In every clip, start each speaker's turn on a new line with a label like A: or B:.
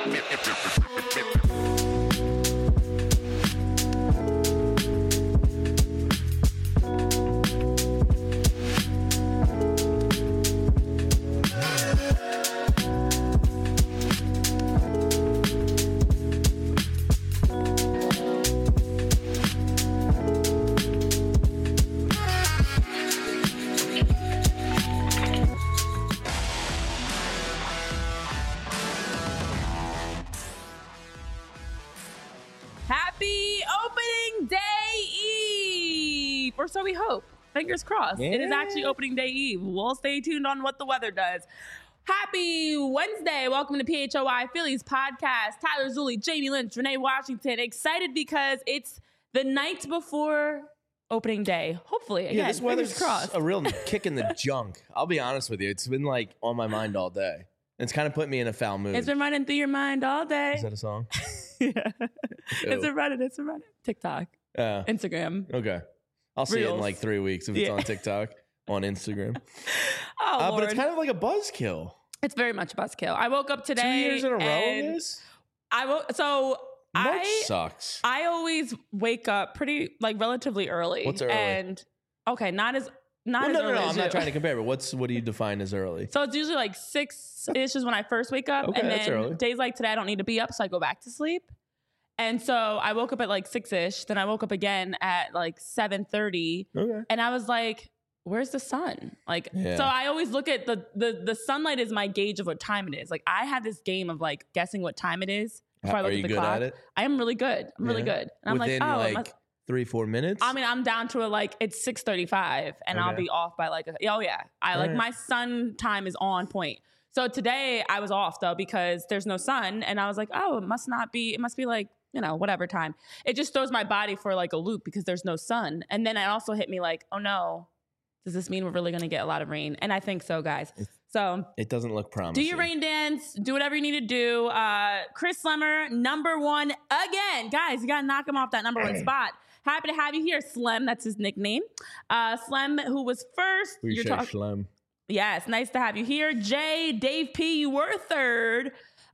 A: Happy opening day eve, or so we hope. Fingers crossed.
B: Yeah.
A: It is actually opening day eve. We'll stay tuned on what the weather does. Happy Wednesday. Welcome to PHOI Phillies podcast. Tyler Zulli, Jamie Lynch, Renee Washington. Excited because it's the night before opening day. Hopefully, again,
B: this weather's
A: fingers crossed.
B: a real kick in the junk. I'll be honest with you. It's been like on my mind all day. It's kind of put me in a foul mood.
A: It's been running through your mind all day.
B: Is that a song?
A: Yeah. It's been running. TikTok, Instagram.
B: Okay. I'll see it in
A: Reels.
B: like 3 weeks if it's on TikTok, on Instagram.
A: Oh,
B: But
A: Lord.
B: it's kind of like a buzzkill.
A: It's very much a buzzkill. I woke up today.
B: 2 years in a row
A: and
B: of this?
A: I
B: Sucks.
A: I always wake up pretty relatively early.
B: What's early?
A: And okay, not as
B: No,
A: early
B: I'm
A: as
B: not
A: you.
B: trying to compare, but what do you define as early?
A: So it's usually like 6-ish is when I first wake up.
B: Okay,
A: and
B: that's
A: then
B: early.
A: days like today I don't need to be up, so I go back to sleep. And so I woke up at like 6-ish. Then I woke up again at like 7:30.
B: Okay.
A: And I was like, where's the sun?
B: Yeah.
A: So I always look at the sunlight is my gauge of what time it is. Like I have this game of like guessing what time it is before I look
B: Are
A: at
B: you
A: the
B: good
A: clock.
B: at it?
A: I am really good. I'm really
B: Yeah.
A: good. And
B: Within
A: I'm like,
B: 3-4 minutes?
A: I mean, I'm down to it's 6:35 and I'll
B: Okay.
A: be off by my sun time is on point. So today I was off though because there's no sun and I was like, oh, it must be like, whatever time. It just throws my body for like a loop because there's no sun. And then it also hit me like, oh no, does this mean we're really going to get a lot of rain? And I think so, guys. So
B: It doesn't look promising.
A: do your rain dance. Do whatever you need to do. Chris Slemmer, number one again. Guys, you got to knock him off that number one spot. Happy to have you here, Slem. That's his nickname. Slem, who was first.
B: Appreciate Shlem.
A: Yes, nice to have you here. Jay, Dave P, you were third.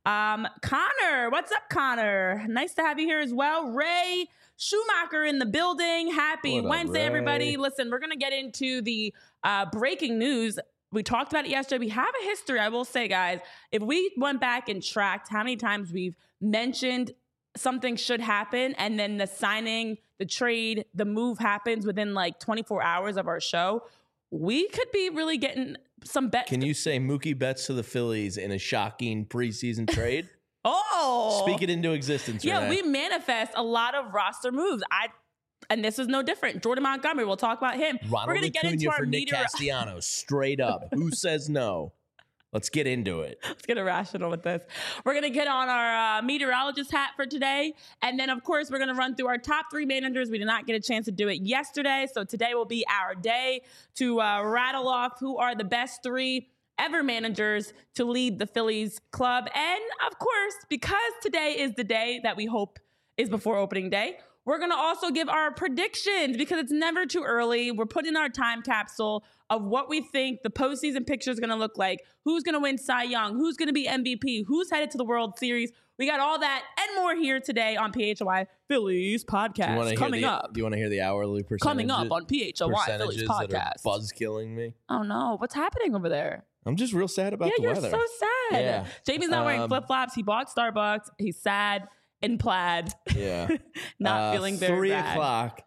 A: Connor, what's up, Connor? Nice to have you here as well. Ray Schumacher in the building. Happy
B: What up,
A: Wednesday,
B: Ray?
A: everybody. Listen, we're going to get into the breaking news. We talked about it yesterday. We have a history, I will say, guys. If we went back and tracked how many times we've mentioned something should happen and then the signing, the trade, the move happens within like 24 hours of our show, we could be really getting some bets.
B: Can you say Mookie Betts to the Phillies in a shocking preseason trade?
A: Oh,
B: Speak it into existence.
A: yeah,
B: Renee.
A: we manifest a lot of roster moves. And this is no different. Jordan Montgomery, we'll talk about him.
B: Ronald
A: We're going to get into
B: Acuna
A: our
B: for Nick Castellanos, straight up. Who says no? Let's get into it.
A: Let's get irrational with this. We're going to get on our meteorologist hat for today. And then, of course, we're going to run through our top 3 managers. We did not get a chance to do it yesterday. So today will be our day to rattle off who are the best 3 ever managers to lead the Phillies club. And, of course, because today is the day that we hope is before opening day, we're going to also give our predictions because it's never too early. We're putting our time capsule of what we think the postseason picture is going to look like, who's going to win Cy Young, who's going to be MVP, who's headed to the World Series. We got all that and more here today on PHOI Phillies podcast. Coming up.
B: Do you want to hear the hourly percentages?
A: Coming up on PHOI Phillies
B: Percentages
A: podcast.
B: that are buzz killing me?
A: Oh, no. What's happening over there?
B: I'm just real sad about the
A: You're
B: weather.
A: so sad.
B: Yeah.
A: Jamie's not wearing flip-flops. He bought Starbucks. He's sad in plaid.
B: Yeah.
A: Not feeling very
B: 3
A: bad.
B: o'clock,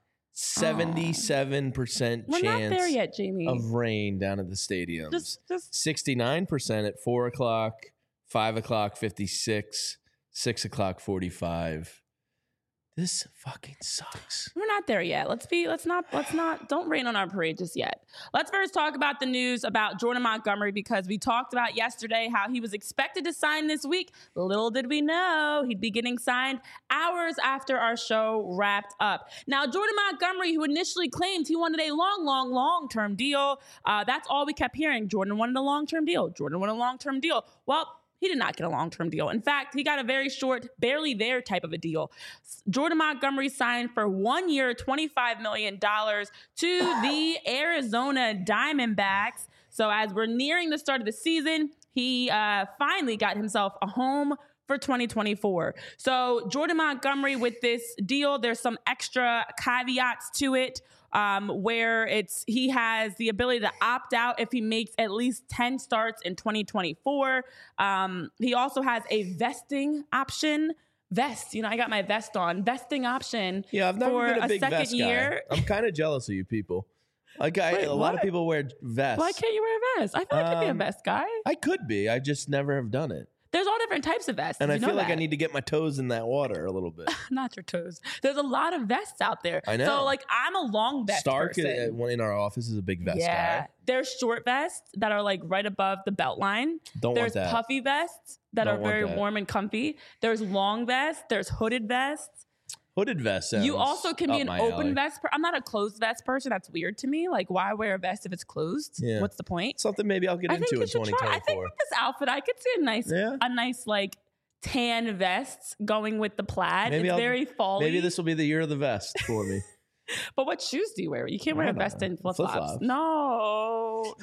B: 77%
A: We're not there
B: chance
A: yet, Jamie.
B: of rain down at the stadiums.
A: Just
B: 69% at 4 o'clock, 5 o'clock, 56, 6 o'clock, 45. This fucking sucks.
A: we're not there yet. Let's not, don't rain on our parade just yet. Let's first talk about the news about Jordan Montgomery because we talked about yesterday how he was expected to sign this week. Little did we know he'd be getting signed hours after our show wrapped up. Now, Jordan Montgomery, who initially claimed he wanted a long-term deal, that's all we kept hearing. Jordan wanted a long-term deal. Jordan wanted a long-term deal. Well, he did not get a long-term deal. In fact, he got a very short, barely there type of a deal. Jordan Montgomery signed for 1 year, $25 million to the Arizona Diamondbacks. So as we're nearing the start of the season, he finally got himself a home for 2024. So Jordan Montgomery with this deal, there's some extra caveats to it where he has the ability to opt out if he makes at least 10 starts in 2024. He also has a vesting option. I got my vest on. Vesting option.
B: Yeah, I've never
A: for
B: been a big
A: second
B: vest
A: year.
B: guy. I'm kind of jealous of you people. Like a lot of people wear vests.
A: Why can't you wear a vest? I feel like I could be a vest guy.
B: I could be. I just never have done it.
A: There's all different types of vests.
B: And I
A: feel
B: like I need to get my toes in that water a little bit.
A: Not your toes. There's a lot of vests out there.
B: I know.
A: So like I'm a long vest
B: Stark
A: person.
B: in our office is a big vest guy.
A: There's short vests that are like right above the belt line.
B: There's
A: want that. Puffy vests that are very warm and comfy. There's long vests. There's hooded vests.
B: Hooded vest.
A: You also can be an open vest. I'm not a closed vest person. That's weird to me. Like, why wear a vest if it's closed? Yeah. What's the point?
B: Something maybe I'll get into in 2024.
A: I think with this outfit, I could see a nice like tan vest going with the plaid. It's very fall-y.
B: Maybe this will be the year of the vest for me.
A: But what shoes do you wear? You can't wear a vest in flip-flops. No.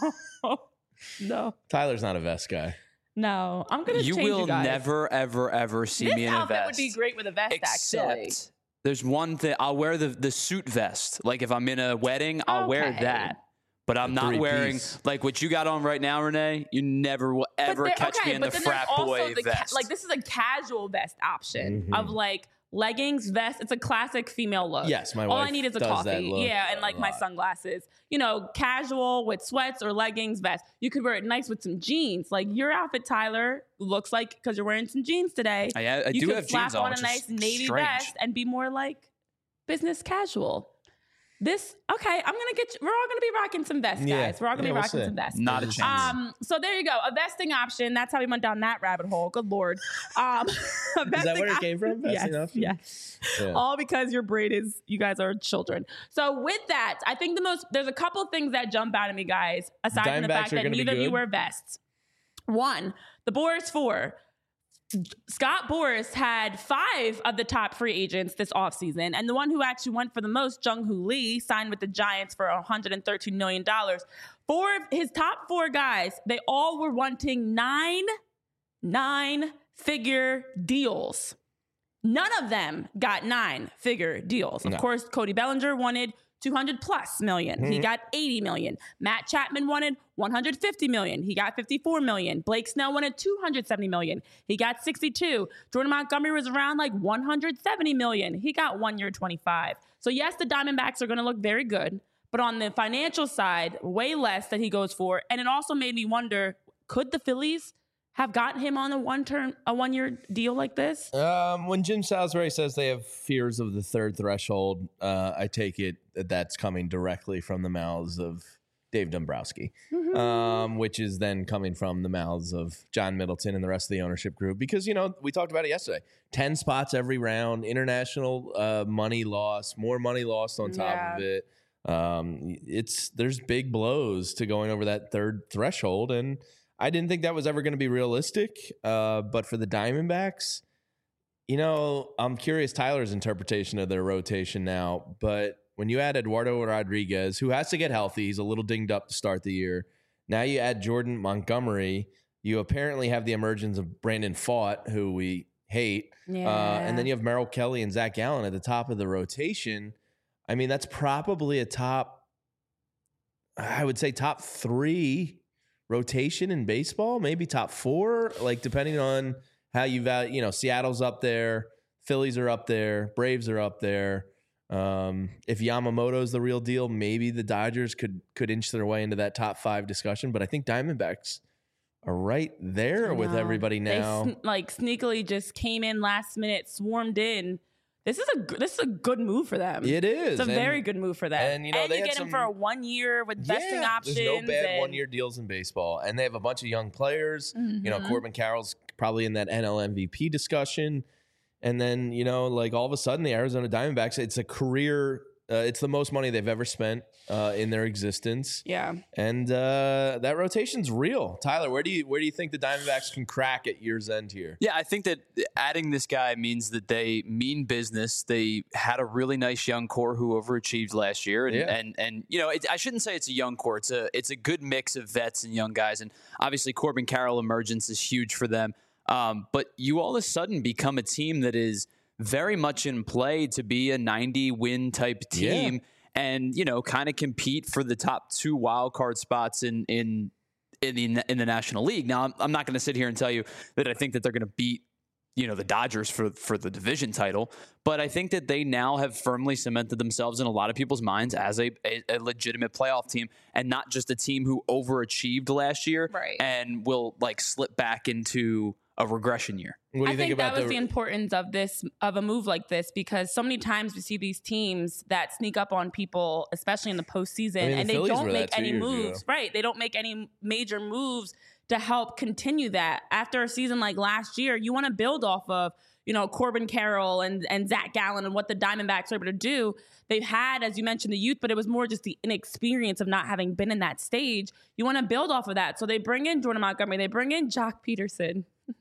B: Tyler's not a vest guy.
A: No, I'm going to change you guys.
C: Never, ever, ever see me in a vest.
A: This outfit would be great with a vest, actually.
C: There's one thing. I'll wear the suit vest. Like if I'm in a wedding, I'll wear that. But I'm not wearing like what you got on right now, Renee. You never will ever catch me in the frat boy vest.
A: Like this is a casual vest option of like leggings, vest. It's a classic female look.
B: Yes, my wife.
A: All I need is a coffee. Yeah, and like my sunglasses. Casual with sweats or leggings, vest. You could wear it nice with some jeans. Like your outfit, Tyler, looks like because you're wearing some jeans today.
C: I do have jeans on.
A: You could slap on a nice navy vest and be more like business casual. I'm gonna get you. We're all gonna be rocking some vests, guys.
B: Yeah.
A: We're all gonna be rocking some vests.
C: Not a chance.
A: So there you go. A vesting option. That's how we went down that rabbit hole. Good Lord.
B: Is that where it came from?
A: Yes. Yeah. All because your braid is, you guys are children. So with that, I think there's a couple things that jump out at me, guys, aside from the fact that neither of you wear vests. One, the Boris 4. Scott Boras had 5 of the top free agents this offseason, and the one who actually went for the most, Jung-Hoo Lee, signed with the Giants for $113 million. His top 4 guys, they all were wanting nine-figure deals. None of them got 9-figure deals. Of course, Cody Bellinger wanted $200+ million. He got $80 million. Matt Chapman wanted $150 million. He got $54 million. Blake Snell wanted $270 million. He got $62. Jordan Montgomery was around like $170 million. He got 1 year, $25. So yes, the Diamondbacks are going to look very good, but on the financial side, way less that he goes for. And it also made me wonder, could the Phillies have gotten him on a 1 year deal like this?
B: When Jim Salisbury says they have fears of the third threshold, I take it that's coming directly from the mouths of Dave Dombrowski, which is then coming from the mouths of John Middleton and the rest of the ownership group. Because, we talked about it yesterday. 10 spots every round, international money lost, more money lost on top of it. There's big blows to going over that third threshold, and I didn't think that was ever going to be realistic. But for the Diamondbacks, I'm curious Tyler's interpretation of their rotation now. But when you add Eduardo Rodriguez, who has to get healthy, he's a little dinged up to start the year. Now you add Jordan Montgomery. You apparently have the emergence of Brandon Pfaadt, who we hate. Yeah. And then you have Merrill Kelly and Zach Gallen at the top of the rotation. I mean, that's probably top 3 rotation in baseball, maybe top 4, like depending on how you value, Seattle's up there, Phillies are up there, Braves are up there. If Yamamoto's the real deal, maybe the Dodgers could inch their way into that top 5 discussion, but I think Diamondbacks are right there with everybody now.
A: They sneakily just came in last minute, swarmed in. This is a good move for them.
B: It is.
A: It's a very good move for them.
B: And
A: you get him for a 1 year with vesting options.
B: There's no bad 1 year deals in baseball. And they have a bunch of young players. Corbin Carroll's probably in that NL MVP discussion. And then, all of a sudden the Arizona Diamondbacks, it's a career It's the most money they've ever spent in their existence.
A: Yeah.
B: And that rotation's real. Tyler, where do you think the Diamondbacks can crack at year's end here?
C: Yeah, I think that adding this guy means that they mean business. They had a really nice young core who overachieved last year, and you know, I shouldn't say it's a young core. It's a good mix of vets and young guys, and obviously Corbin Carroll emergence is huge for them. But you all of a sudden become a team that is very much in play to be a 90-win type team, and you know, kind of compete for the top 2 wild card spots in the National League. Now, I'm not going to sit here and tell you that I think that they're going to beat, you know, the Dodgers for the division title, but I think that they now have firmly cemented themselves in a lot of people's minds as a legitimate playoff team, and not just a team who overachieved last year and will like slip back into a regression year.
B: What do you think about
A: that was the importance of a move like this, because so many times we see these teams that sneak up on people, especially in the postseason, and they don't make any moves. Right. They don't make any major moves to help continue that. After a season like last year, you want to build off of, you know, Corbin Carroll and Zach Gallen and what the Diamondbacks are able to do. They've had, as you mentioned, the youth, but it was more just the inexperience of not having been in that stage. You want to build off of that. So they bring in Jordan Montgomery. They bring in Jock Peterson.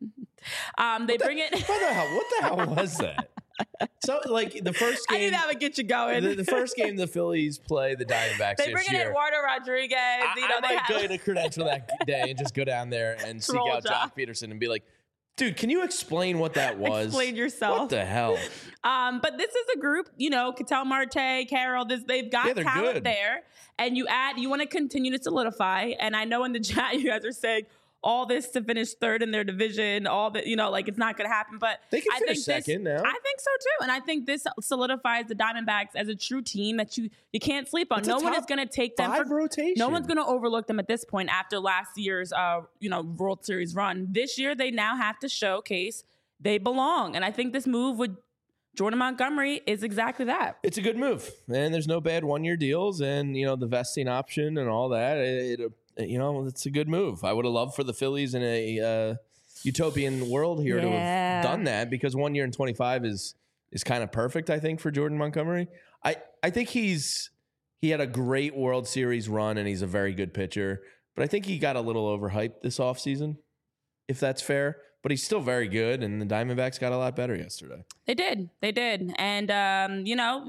A: What
B: the hell was that? So, like, the first game,
A: I knew that would get you going.
B: The first game the Phillies play the Diamondbacks
A: they bring in Eduardo Rodriguez.
B: I might go to Credential that day and just go down there and seek out Jock Peterson and be like, dude, can you explain what that was?
A: Explain yourself.
B: What the hell?
A: But this is a group, you know, Ketel Marte, Carroll, they've got talent
B: good
A: there. And you want to continue to solidify. And I know in the chat you guys are saying, all this to finish third in their division, all that, you know, like it's not going to happen. But
B: they can finish second now.
A: I think so too. And I think this solidifies the Diamondbacks as a true team that you can't sleep on. No one is going to take them for
B: rotation.
A: No one's going to overlook them at this point after last year's World Series run. This year they now have to showcase they belong. And I think this move with Jordan Montgomery is exactly that.
B: It's a good move. And there's no bad 1-year deals, and you know, the vesting option and all that. You know, it's a good move. I would have loved for the Phillies in a utopian world here to have done that, because 1 year and 25 is kind of perfect, I think, for Jordan Montgomery. I think he had a great World Series run, and he's a very good pitcher. But I think he got a little overhyped this offseason, if that's fair. But he's still very good, and the Diamondbacks got a lot better yesterday.
A: They did. And, you know,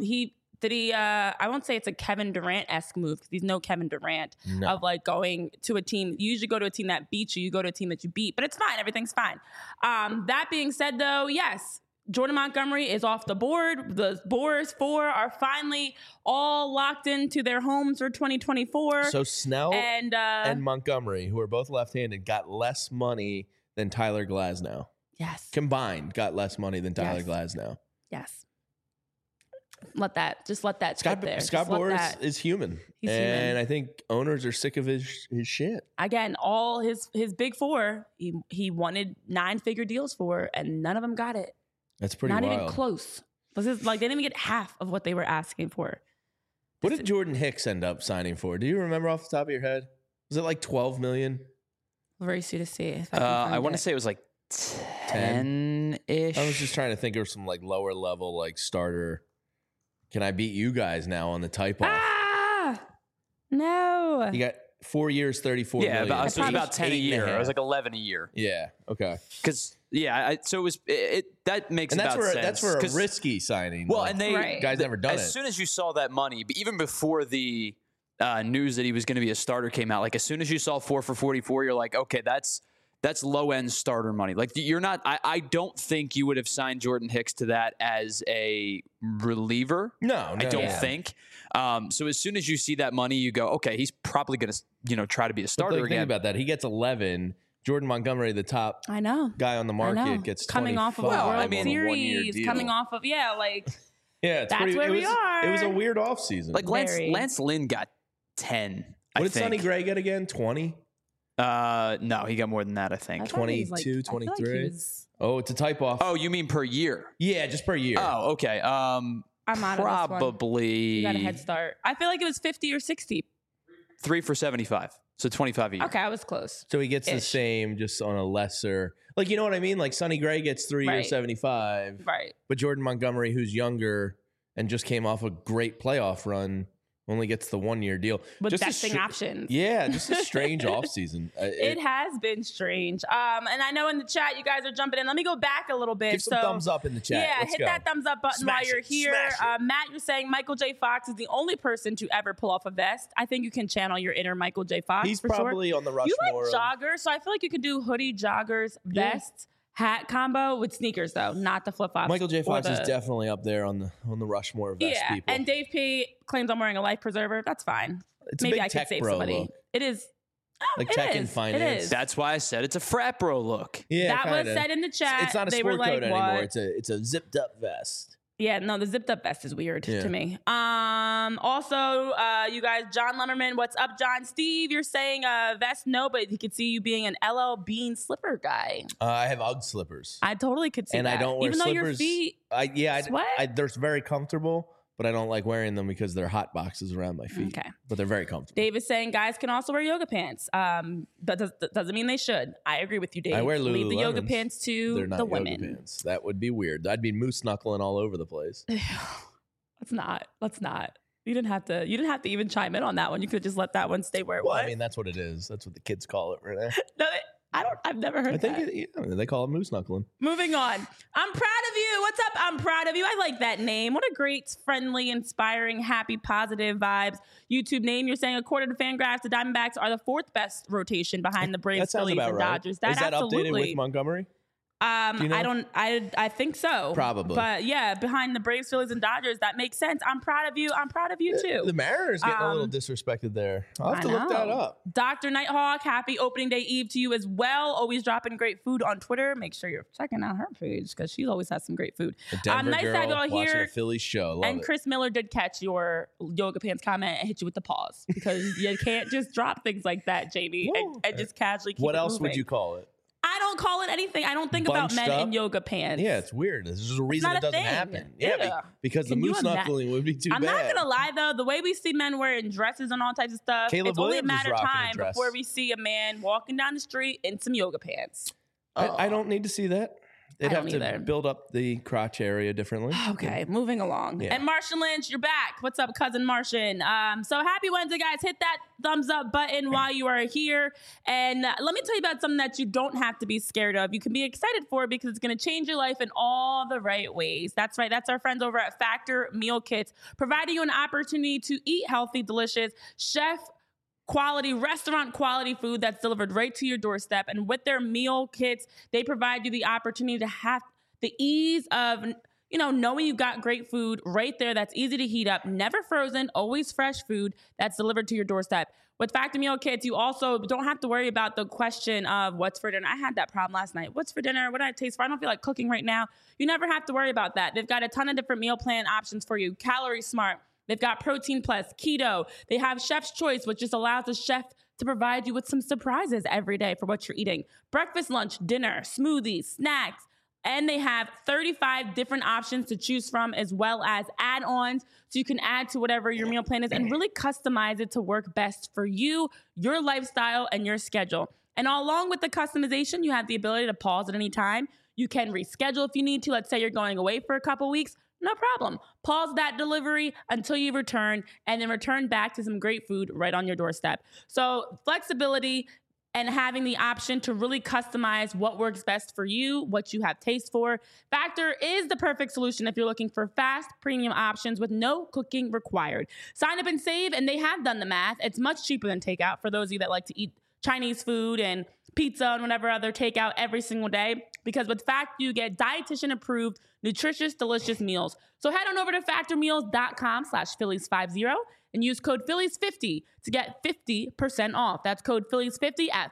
A: I won't say it's a Kevin Durant-esque move, because he's no Kevin Durant of like going to a team. You usually go to a team that beats you. You go to a team that you beat, but it's fine. Everything's fine. That being said, though, yes, Jordan Montgomery is off the board. The Boras 4 are finally all locked into their homes for 2024.
B: So Snell and Montgomery, who are both left-handed, got less money than Tyler Glasnow.
A: Yes.
B: Combined, got less money than Tyler Glasnow.
A: Yes. Let that sit there.
B: Scott Boras is human.
A: He's
B: human.
A: And
B: I think owners are sick of his shit.
A: Again, all his big 4, he wanted 9-figure deals for, and none of them got it.
B: That's pretty
A: Not
B: wild.
A: even close. This is like they didn't even get half of what they were asking for.
B: What did Jordan Hicks end up signing for? Do you remember off the top of your head? Was it like $12 million?
A: Very soon to see.
C: I want to say it was like 10-ish.
B: I was just trying to think of some like lower level like starter. Can I beat you guys now on the type off?
A: No.
B: You got 4 years, 34 million.
C: Yeah, so it was about 10 a year. It was like 11 a year.
B: Yeah. Okay.
C: Because so it was. That makes
B: and
C: sense.
B: That's for a risky signing.
C: Well, and
B: guys never done it.
C: As soon as you saw that money, even before the news that he was going to be a starter came out, like as soon as you saw 4 for 44, you're like, okay, that's low end starter money. Like you're not. I don't think you would have signed Jordan Hicks to that as a reliever.
B: No,
C: I don't think. So as soon as you see that money, you go, okay, he's probably going to try to be a starter again.
B: Think about that. He gets 11. Jordan Montgomery, the top guy on the market, gets 25.
A: Coming off of a World Series, coming off of that's where we are.
B: It was a weird offseason.
C: Like Lance Lynn got 10.
B: What did Sonny Gray get again? 20?
C: No, he got more than that, I think.
B: 22, 23. Oh, it's a type off.
C: Oh, you mean per year?
B: Yeah, just per year.
C: Oh, okay.
A: I'm out
C: probably.
A: You got a head start. I feel like it was 50 or 60.
C: 3 for 75. So 25 a year.
A: Okay, I was close.
B: So he gets the same, just on a lesser. Like, you know what I mean? Like Sonny Gray gets 3 years, 75.
A: Right.
B: But Jordan Montgomery, who's younger and just came off a great playoff run. Only gets the 1-year deal.
A: With
B: just
A: vesting options.
B: Yeah, just a strange offseason.
A: It has been strange. And I know in the chat you guys are jumping in. Let me go back a little bit.
B: Give some thumbs up in the chat.
A: Yeah, hit that thumbs up button while you're here. Matt, you're saying Michael J. Fox is the only person to ever pull off a vest. I think you can channel your inner Michael J. Fox.
B: He's
A: for
B: probably
A: sure.
B: on the Rushmore.
A: You like joggers, so I feel like you can do hoodie, joggers, vest, hat combo with sneakers though, not the flip flops.
B: Michael J. Fox is definitely up there on the Rushmore of vest people.
A: And Dave P claims I'm wearing a life preserver. That's fine.
B: It's
A: Maybe
B: a big
A: I could save somebody.
B: Look.
A: It is.
B: Like tech and finance.
A: It is.
C: That's why I said it's a frat bro look.
B: Yeah,
A: that
B: kinda.
A: was said in the chat.
B: It's not a
A: they
B: sport
A: were like,
B: coat anymore.
A: What?
B: It's a zipped up vest.
A: Yeah, no, the zipped up vest is weird to me. Also, you guys, John Lemmerman, what's up, John? Steve, you're saying vest, no, but he could see you being an LL Bean slipper guy.
B: I have UGG slippers.
A: I totally could see that.
B: And I don't wear
A: even
B: slippers.
A: Though your feet
B: they're very comfortable, but I don't like wearing them because they're hot boxes around my feet.
A: Okay.
B: But they're very comfortable.
A: Dave is saying guys can also wear yoga pants. That doesn't mean they should. I agree with you, Dave.
B: I wear Lululemons.
A: Leave the yoga pants to
B: they're not
A: the
B: yoga
A: women.
B: Pants. That would be weird. I'd be moose knuckling all over the place.
A: Let's not. You didn't have to even chime in on that one. You could just let that one stay where it was.
B: I mean, that's what it is. That's what the kids call it, right?
A: No, I've never heard that.
B: I think they call it moose knuckling.
A: Moving on. I'm proud of you. What's up? I'm proud of you. I like that name. What a great, friendly, inspiring, happy, positive vibes YouTube name. You're saying, according to Fangraphs, the Diamondbacks are the 4th best rotation behind the Braves, Phillies, and Dodgers.
B: Is that updated with Montgomery? You know?
A: I think so.
B: Probably.
A: But yeah, behind the Braves, Phillies, and Dodgers, that makes sense. I'm proud of you. I'm proud of you too.
B: The Mariners getting a little disrespected there. I'll have to look that up.
A: Dr. Nighthawk, happy opening day eve to you as well. Always dropping great food on Twitter. Make sure you're checking out her page because she always has some great food.
B: Denver
A: nice
B: girl
A: to have you all
B: watching
A: here.
B: a Phillies show. Love
A: and
B: it.
A: Chris Miller did catch your yoga pants comment and hit you with the pause because you can't just drop things like that, Jamie, and just casually keep
B: What
A: it
B: else
A: moving.
B: would you call it?
A: I don't call it anything. I don't think about men in yoga pants.
B: Yeah, it's weird. There's a reason it doesn't happen. Yeah, because the moose knuckling would be too bad.
A: I'm not gonna lie though, the way we see men wearing dresses and all types of stuff, it's only a matter of time before we see a man walking down the street in some yoga pants.
B: I don't need to see that. They'd have to build up the crotch area differently.
A: Okay, moving along. Yeah. And Martian Lynch, you're back. What's up, cousin Martian? So happy Wednesday, guys. Hit that thumbs up button while you are here. And let me tell you about something that you don't have to be scared of. You can be excited for it because it's going to change your life in all the right ways. That's right. That's our friends over at Factor Meal Kits, providing you an opportunity to eat healthy, delicious, chef quality, restaurant quality food that's delivered right to your doorstep. And with their meal kits, they provide you the opportunity to have the ease of, knowing you got great food right there that's easy to heat up, never frozen, always fresh food that's delivered to your doorstep. With Factor Meal Kits, you also don't have to worry about the question of what's for dinner. I had that problem last night. What's for dinner? What do I taste for? I don't feel like cooking right now. You never have to worry about that. They've got a ton of different meal plan options for you. Calorie Smart. They've got Protein Plus, Keto. They have Chef's Choice, which just allows the chef to provide you with some surprises every day for what you're eating. Breakfast, lunch, dinner, smoothies, snacks. And they have 35 different options to choose from, as well as add-ons. So you can add to whatever your meal plan is and really customize it to work best for you, your lifestyle, and your schedule. And along with the customization, you have the ability to pause at any time. You can reschedule if you need to. Let's say you're going away for a couple weeks. No problem. Pause that delivery until you return and then return back to some great food right on your doorstep. So flexibility and having the option to really customize what works best for you, what you have taste for. Factor is the perfect solution if you're looking for fast, premium options with no cooking required. Sign up and save, and they have done the math. It's much cheaper than takeout for those of you that like to eat Chinese food and pizza and whatever other takeout every single day, because with Factor, you get dietitian approved, nutritious, delicious meals. So head on over to factormeals.com/Phillies50 and use code Phillies50 to get 50% off. That's code Phillies50 at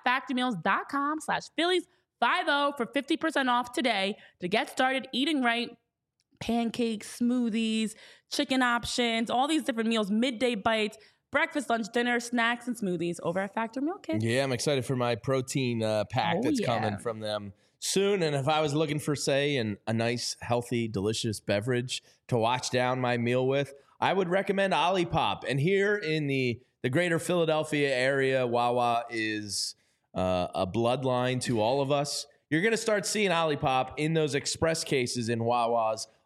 A: factormeals.com/Phillies50 for 50% off today to get started eating right. Pancakes, smoothies, chicken options, all these different meals, midday bites, breakfast, lunch, dinner, snacks, and smoothies over at Factor Meal Kit.
B: Yeah, I'm excited for my protein pack that's coming from them soon. And if I was looking for, say, a nice, healthy, delicious beverage to wash down my meal with, I would recommend Olipop. And here in the greater Philadelphia area, Wawa is a bloodline to all of us. You're going to start seeing Olipop in those express cases in Wawas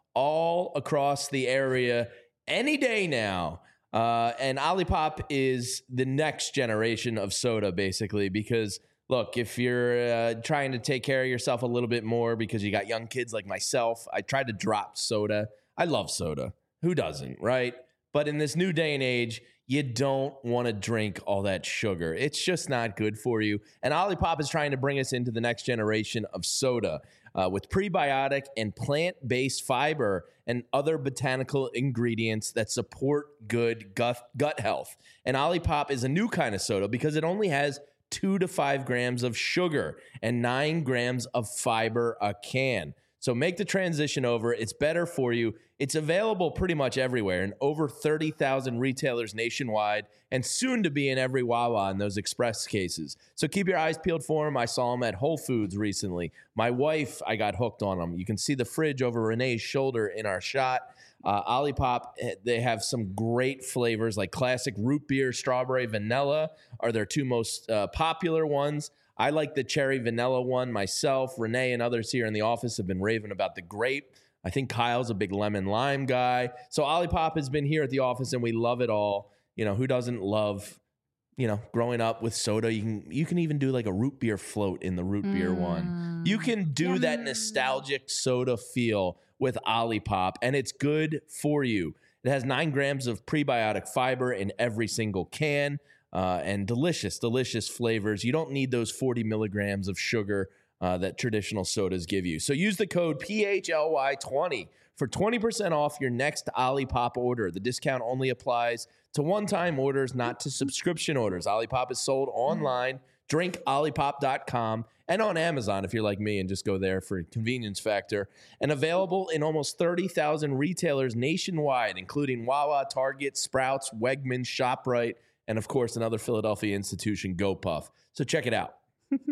B: all across the area any day now. And Olipop is the next generation of soda, basically, because look, if you're trying to take care of yourself a little bit more because you got young kids like myself, I tried to drop soda. I love soda. Who doesn't, right? But in this new day and age, you don't want to drink all that sugar. It's just not good for you. And Olipop is trying to bring us into the next generation of soda with prebiotic and plant-based fiber and other botanical ingredients that support good gut health. And Olipop is a new kind of soda because it only has 2 to 5 grams of sugar and 9 grams of fiber a can. So make the transition over. It's better for you. It's available pretty much everywhere in over 30,000 retailers nationwide and soon to be in every Wawa in those express cases. So keep your eyes peeled for them. I saw them at Whole Foods recently. My wife, I got hooked on them. You can see the fridge over Renee's shoulder in our shot. Olipop, they have some great flavors like classic root beer, strawberry, vanilla are their two most popular ones. I like the cherry vanilla one myself. Renee and others here in the office have been raving about the grape. I think Kyle's a big lemon lime guy. So Olipop has been here at the office and we love it all. You know, who doesn't love, you know, growing up with soda? You can even do like a root beer float in the root beer one. You can do that nostalgic soda feel with Olipop, and it's good for you. It has 9 grams of prebiotic fiber in every single can. And delicious flavors. You don't need those 40 milligrams of sugar that traditional sodas give you. So use the code PHLY20 for 20% off your next Olipop order. The discount only applies to one-time orders, not to subscription orders. Olipop is sold online, drinkolipop.com, and on Amazon if you're like me and just go there for convenience factor. And available in almost 30,000 retailers nationwide, including Wawa, Target, Sprouts, Wegmans, ShopRite, and, of course, another Philadelphia institution, GoPuff. So check it out.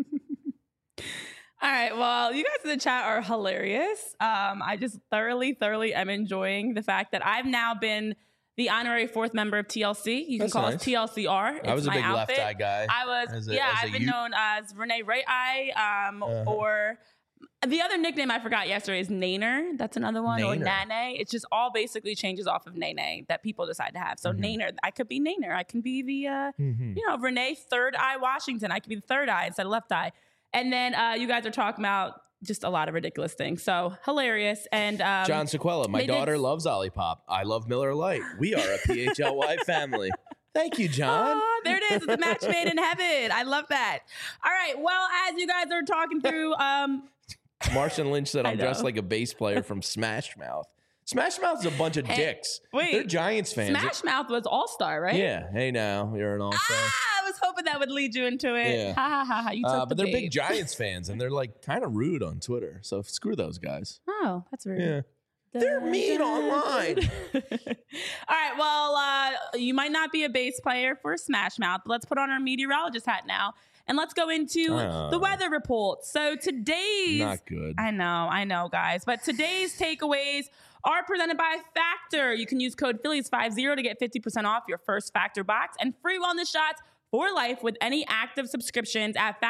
A: All right. Well, you guys in the chat are hilarious. I just thoroughly am enjoying the fact that I've now been the honorary 4th member of TLC. You can call us TLCR.
B: I was a big left eye guy.
A: I've been known as Renee Right Eye or... The other nickname I forgot yesterday is Nainer. That's another one. Or Nane. It's just all basically changes off of Nene that people decide to have. So Nainer. I could be Nainer. I can be the, Renee Third Eye Washington. I could be the third eye instead of left eye. And then you guys are talking about just a lot of ridiculous things. So hilarious. And
B: John Sequella, my daughter loves Olipop. I love Miller Lite. We are a PHLY family. Thank you, John.
A: Oh, there it is. It's a match made in heaven. I love that. All right. Well, as you guys are talking through...
B: Marshawn Lynch said I'm dressed like a bass player from Smash Mouth. Smash Mouth is a bunch of dicks.
A: Wait,
B: they're Giants fans.
A: Smash Mouth was All-Star, right?
B: Yeah. Hey, now you're an All-Star.
A: I was hoping that would lead you into it.
B: Yeah.
A: Ha ha ha. You took
B: but they're big Giants fans, and they're like kind of rude on Twitter. So screw those guys.
A: Oh, that's rude.
B: Yeah. They're mean online.
A: All right. Well, you might not be a bass player for Smash Mouth, but let's put on our meteorologist hat now. And let's go into the weather report. So today's...
B: Not good.
A: I know, guys. But today's takeaways are presented by Factor. You can use code Phillies50 to get 50% off your first Factor box and free wellness shots for life with any active subscriptions at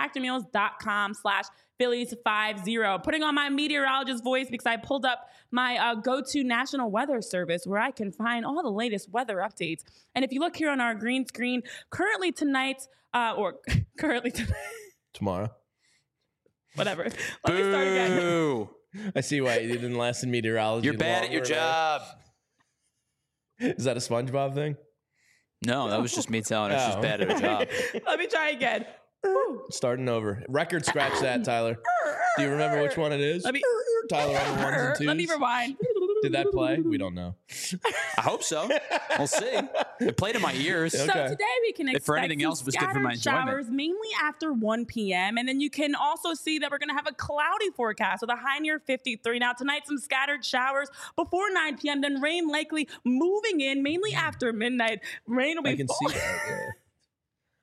A: factormeals.com/Phillies50. Putting on my meteorologist voice because I pulled up my go-to National Weather Service where I can find all the latest weather updates. And if you look here on our green screen, currently tonight,
B: tomorrow.
A: Whatever. Let me start again.
B: I see why you didn't last in meteorology.
C: You're bad at your job.
B: Is that a SpongeBob thing?
C: No, that was just me telling her she's bad at her job.
A: Let me try again.
B: Starting over. Record scratch that, Tyler. Do you remember which one it is? Tyler on the 1s and 2s.
A: Let me rewind.
B: Did that play? We don't know.
C: I hope so. We'll see. It played in my ears.
A: So today we can expect
C: if for anything else, it was good for my enjoyment.
A: Showers mainly after 1 p.m. And then you can also see that we're going to have a cloudy forecast with a high near 53. Now tonight, some scattered showers before 9 p.m. Then rain likely moving in mainly after midnight. Rain will be
B: I can see that. Yeah.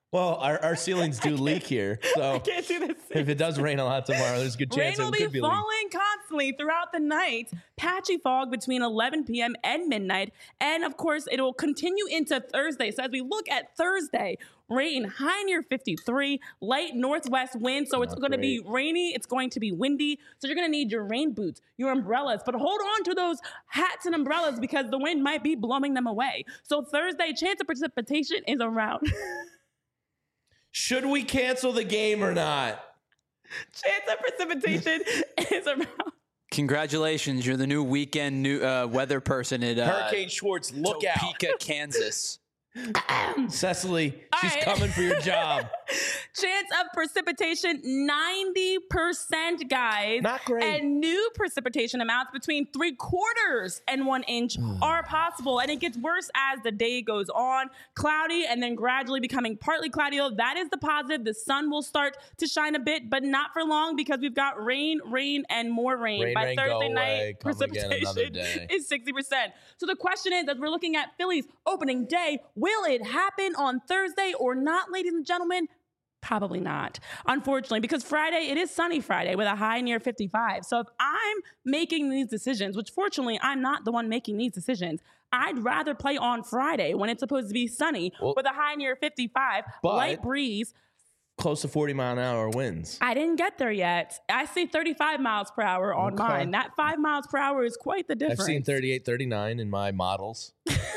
B: Well, our ceilings do leak here, so
A: I can't do this.
B: If it does rain a lot tomorrow, there's a good chance
A: rain
B: it could
A: be falling constantly throughout the night. Patchy fog between 11 p.m. and midnight, and of course, it will continue into Thursday. So as we look at Thursday, rain high near 53, light northwest wind. So it's going to be rainy. It's going to be windy. So you're going to need your rain boots, your umbrellas, but hold on to those hats and umbrellas because the wind might be blowing them away. So Thursday, chance of precipitation is around.
B: Should we cancel the game or not?
A: Chance of precipitation is around.
C: Congratulations, you're the new weekend weather person at
B: Hurricane Schwartz. Look
C: Topeka, Kansas.
B: Cecily, she's coming for your job.
A: Chance of precipitation, 90%, guys.
B: Not great.
A: And new precipitation amounts between 3/4 and 1 inch are possible. And it gets worse as the day goes on. Cloudy and then gradually becoming partly cloudy. That is the positive. The sun will start to shine a bit, but not for long because we've got rain, and more rain. By Thursday night, precipitation is 60%. So the question is, as we're looking at Phillies opening day, will it happen on Thursday or not, ladies and gentlemen? Probably not, unfortunately, because Friday, it is sunny Friday with a high near 55. So if I'm making these decisions, which fortunately I'm not the one making these decisions, I'd rather play on Friday when it's supposed to be sunny with a high near 55, light breeze.
B: Close to 40-mile-an-hour winds.
A: I didn't get there yet. I see 35 miles per hour on mine. That 5 miles per hour is quite the difference.
B: I've seen 38, 39 in my models.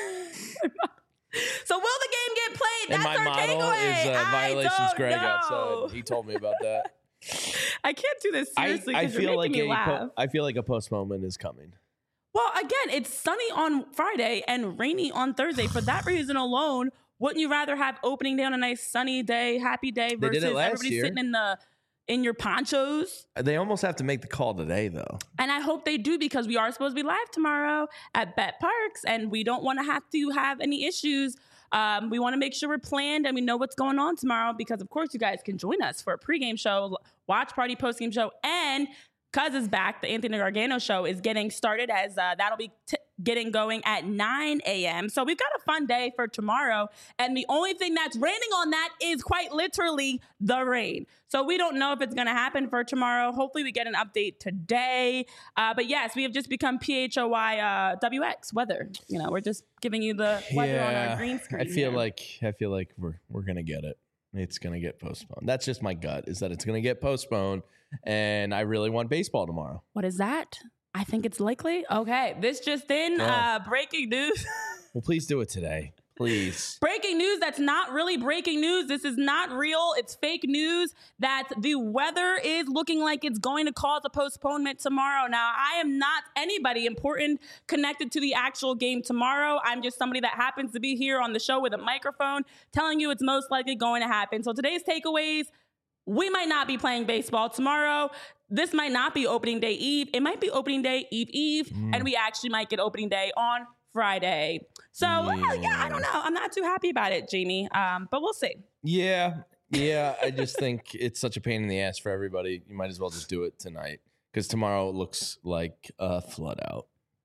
A: So will the game get played?
B: And
A: That's
B: my
A: our
B: model
A: takeaway.
B: is Violations Greg
A: know.
B: outside. He told me about that.
A: I can't do this seriously
B: I
A: because you're making me laugh.
B: I feel like a postponement is coming.
A: Well, again, it's sunny on Friday and rainy on Thursday. For that reason alone, wouldn't you rather have opening day on a nice sunny day, happy day versus everybody sitting in your ponchos?
B: They almost have to make the call today, though.
A: And I hope they do because we are supposed to be live tomorrow at Bet Parks, and we don't want to have any issues. We want to make sure we're planned and we know what's going on tomorrow because, of course, you guys can join us for a pregame show, watch party, postgame show, and Cuz is back. The Anthony Gargano show is getting started as that'll be getting going at 9 a.m. So we've got a fun day for tomorrow. And the only thing that's raining on that is quite literally the rain. So we don't know if it's going to happen for tomorrow. Hopefully we get an update today. But yes, we have just become PHOY WX weather. You know, we're just giving you the weather on our green screen.
B: I feel like we're going to get it. It's going to get postponed. That's just my gut, is that it's going to get postponed. And I really want baseball tomorrow.
A: What is that? I think it's likely. Okay. This just in, breaking news.
B: Well, please do it today. Please.
A: Breaking news that's not really breaking news. This is not real. It's fake news that the weather is looking like it's going to cause a postponement tomorrow. Now, I am not anybody important connected to the actual game tomorrow. I'm just somebody that happens to be here on the show with a microphone telling you it's most likely going to happen. So today's takeaways: we might not be playing baseball tomorrow. This might not be opening day eve. It might be opening day eve, and we actually might get opening day on Friday. So, I don't know. I'm not too happy about it, Jamie, but we'll see.
B: Yeah, I just think it's such a pain in the ass for everybody. You might as well just do it tonight because tomorrow it looks like a flood out.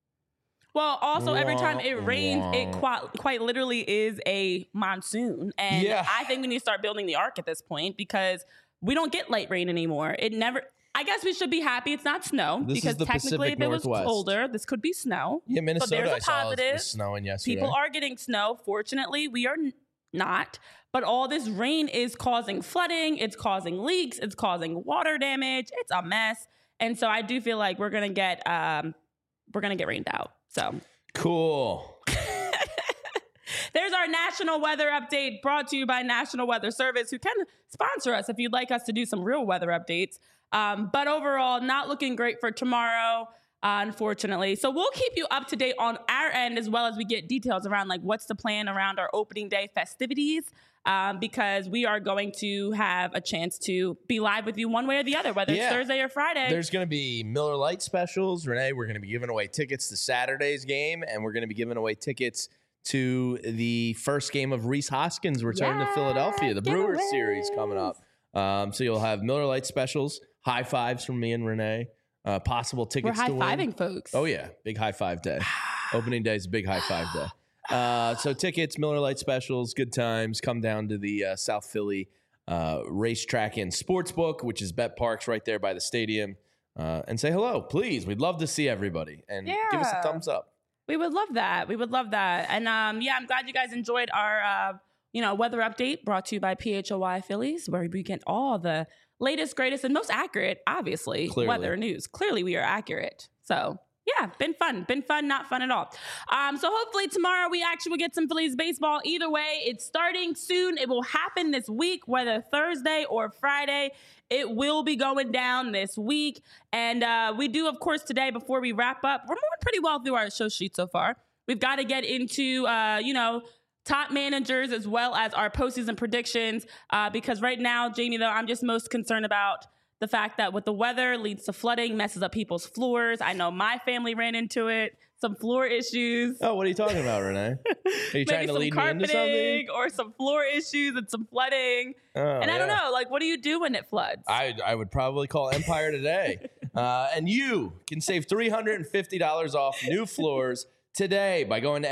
A: Well, also, every time it rains, it quite literally is a monsoon. And I think we need to start building the ark at this point because we don't get light rain anymore. I guess we should be happy it's not snow because technically if it was colder, this could be snow.
B: Yeah, Minnesota,
A: so there's a
B: positive. I saw snowing yesterday.
A: People are getting snow. Fortunately, we are not. But all this rain is causing flooding. It's causing leaks. It's causing water damage. It's a mess. And so I do feel like we're gonna get rained out. So
B: cool.
A: There's our national weather update brought to you by National Weather Service, who can sponsor us if you'd like us to do some real weather updates. But overall, not looking great for tomorrow, unfortunately. So we'll keep you up to date on our end as well as we get details around like what's the plan around our opening day festivities, because we are going to have a chance to be live with you one way or the other, whether it's Thursday or Friday.
B: There's going to be Miller Lite specials. Renee, we're going to be giving away tickets to Saturday's game, and we're going to be giving away tickets to the first game of Rhys Hoskins return to Philadelphia, the Brewers series coming up. So you'll have Miller Lite specials, high fives from me and Renee, possible tickets to win.
A: We're high-fiving folks.
B: Oh, yeah. Big high five day. Opening day is a big high five day. So tickets, Miller Lite specials, good times. Come down to the South Philly Racetrack and Sportsbook, which is Bet Parks right there by the stadium, and say hello, please. We'd love to see everybody, and give us a thumbs up.
A: We would love that. And I'm glad you guys enjoyed our weather update brought to you by PHLY Phillies, where we get all the latest, greatest, and most accurate, obviously, weather news. Clearly, we are accurate. So, yeah, been fun, not fun at all. So hopefully tomorrow we actually will get some Phillies baseball. Either way, it's starting soon. It will happen this week, whether Thursday or Friday. It will be going down this week. And we do, of course, today, before we wrap up, we're moving pretty well through our show sheet so far. We've got to get into, top managers as well as our postseason predictions. Because right now, Jamie, though, I'm just most concerned about the fact that with the weather leads to flooding, messes up people's floors. I know my family ran into it. Some floor issues.
B: Oh, what are you talking about, Renee? Are you trying to lead me into something?
A: Or some floor issues and some flooding. I don't know. Like, what do you do when it floods?
B: I would probably call Empire Today. And you can save $350 off new floors today by going to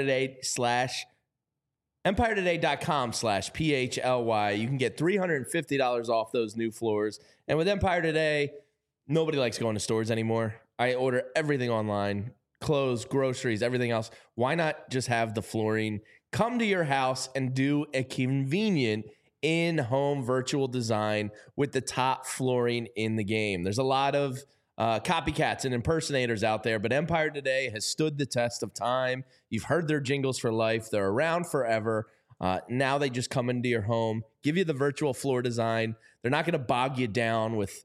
B: EmpireToday.com/PHLY. You can get $350 off those new floors. And with Empire Today, nobody likes going to stores anymore. I order everything online, clothes, groceries, everything else. Why not just have the flooring come to your house and do a convenient in-home virtual design with the top flooring in the game? There's a lot of copycats and impersonators out there, but Empire Today has stood the test of time. You've heard their jingles for life. They're around forever. Now they just come into your home, give you the virtual floor design. They're not going to bog you down with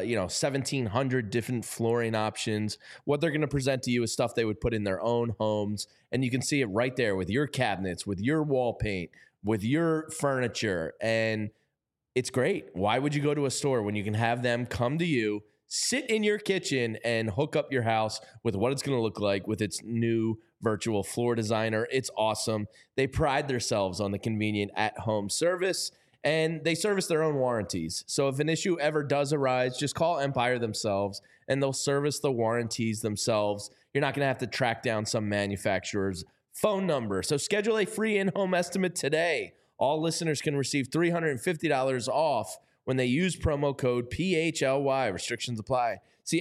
B: 1,700 different flooring options. What they're going to present to you is stuff they would put in their own homes, and you can see it right there with your cabinets, with your wall paint, with your furniture, and it's great. Why would you go to a store when you can have them come to you, sit in your kitchen, and hook up your house with what it's going to look like with its new virtual floor designer? It's awesome. They pride themselves on the convenient at-home service, and they service their own warranties. So if an issue ever does arise, just call Empire themselves, and they'll service the warranties themselves. You're not going to have to track down some manufacturer's phone number. So schedule a free in-home estimate today. All listeners can receive $350 off when they use promo code PHLY. Restrictions apply. See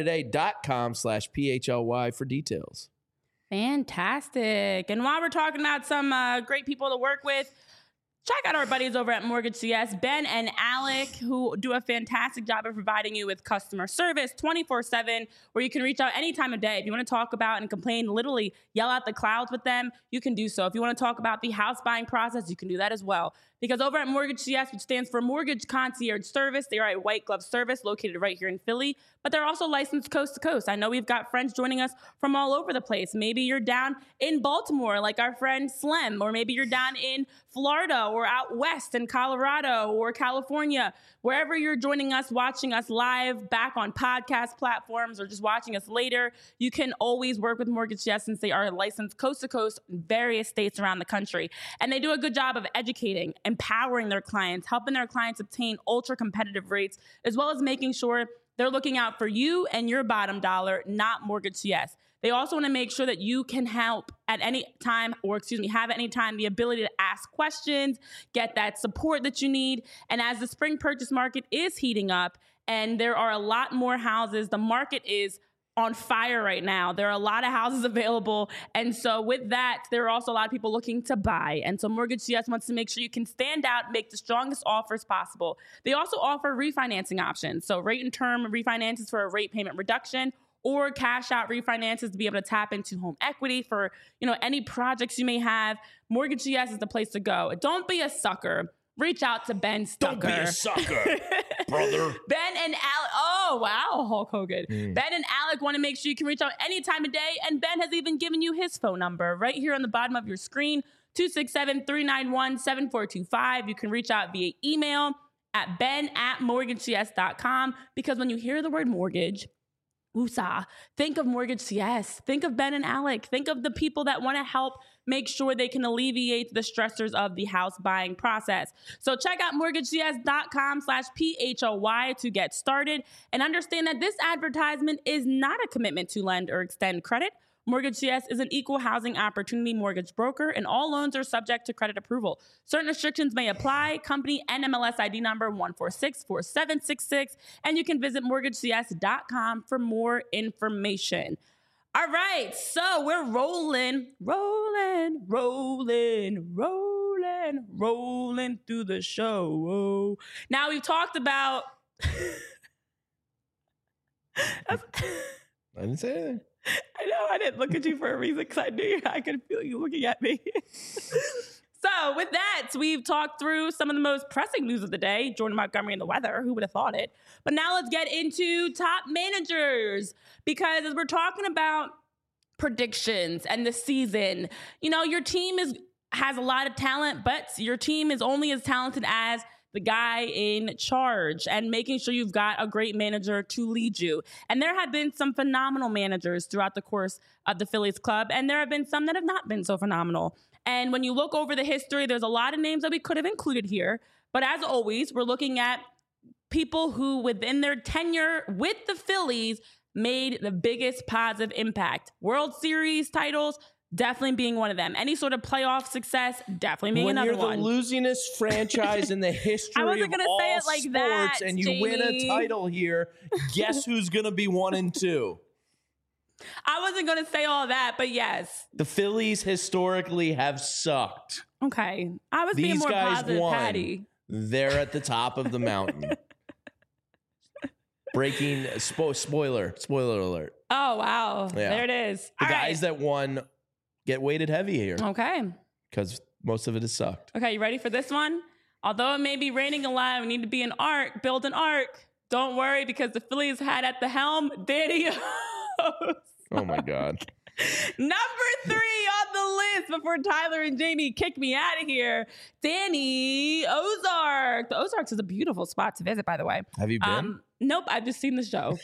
B: EmpireToday.com/PHLY for details.
A: Fantastic. And while we're talking about some great people to work with, check out our buddies over at Mortgage CS, Ben and Alec, who do a fantastic job of providing you with customer service 24/7, where you can reach out any time of day. If you want to talk about and complain, literally yell out the clouds with them, you can do so. If you want to talk about the house buying process, you can do that as well. Because over at Mortgage CS, which stands for Mortgage Concierge Service, they are a white glove service located right here in Philly, but they're also licensed coast to coast. I know we've got friends joining us from all over the place. Maybe you're down in Baltimore, like our friend Slem, or maybe you're down in Florida or out west in Colorado or California. Wherever you're joining us, watching us live, back on podcast platforms, or just watching us later, you can always work with Mortgage CS since they are licensed coast to coast in various states around the country. And they do a good job of educating, empowering their clients, helping their clients obtain ultra competitive rates, as well as making sure they're looking out for you and your bottom dollar, not Mortgage CS. They also want to make sure that you can help at any time, have at any time the ability to ask questions, get that support that you need. And as the spring purchase market is heating up and there are a lot more houses, the market is on fire right now. There are a lot of houses available. And so with that, there are also a lot of people looking to buy. And so Mortgage CS wants to make sure you can stand out, make the strongest offers possible. They also offer refinancing options. So rate and term refinances for a rate payment reduction, or cash out refinances to be able to tap into home equity for, any projects you may have. Mortgage CS is the place to go. Don't be a sucker. Reach out to Ben Stucker.
B: Don't be a sucker, brother.
A: Ben and Alec. Oh, wow, Hulk Hogan. Ben and Alec want to make sure you can reach out any time of day. And Ben has even given you his phone number right here on the bottom of your screen, 267-391-7425. You can reach out via email at ben@mortgagecs.com, because when you hear the word mortgage, woosah, think of Mortgage CS. Think of Ben and Alec. Think of the people that want to help make sure they can alleviate the stressors of the house buying process. So check out mortgagecs.com/PHLY to get started, and understand that this advertisement is not a commitment to lend or extend credit Mortgage CS is an equal housing opportunity mortgage broker, and all loans are subject to credit approval. Certain restrictions may apply. Company NMLS ID number 1464766, and you can visit mortgagecs.com for more information. All right, so we're rolling through the show. Now we've talked about...
B: I didn't say anything.
A: I know, I didn't look at you for a reason because I knew I could feel you looking at me. So with that, we've talked through some of the most pressing news of the day, Jordan Montgomery and the weather. Who would have thought it? But now let's get into top managers, because as we're talking about predictions and the season, your team has a lot of talent, but your team is only as talented as the guy in charge, and making sure you've got a great manager to lead you. And there have been some phenomenal managers throughout the course of the Phillies club, and there have been some that have not been so phenomenal. And when you look over the history, there's a lot of names that we could have included here. But as always, we're looking at people who, within their tenure with the Phillies, made the biggest positive impact. World Series titles, definitely being one of them. Any sort of playoff success, definitely being another one.
B: When you're the losingest franchise in the history of all say it like sports, that, and you win a title here, guess who's going to be 1 and 2?
A: I wasn't going to say all that, but yes.
B: The Phillies historically have sucked.
A: Okay. I was being more positive, Patty.
B: They're at the top of the mountain. Breaking, spoiler alert.
A: Oh, wow. Yeah. There it is.
B: The guys that won get weighted heavy here.
A: Okay.
B: Because most of it has sucked.
A: Okay, you ready for this one? Although it may be raining a lot, we need to be build an arc. Don't worry, because the Phillies had at the helm Danny Ozark.
B: Oh, my God.
A: Number 3 on the list before Tyler and Jamie kick me out of here. Danny Ozark. The Ozarks is a beautiful spot to visit, by the way.
B: Have you been?
A: Nope, I've just seen the show.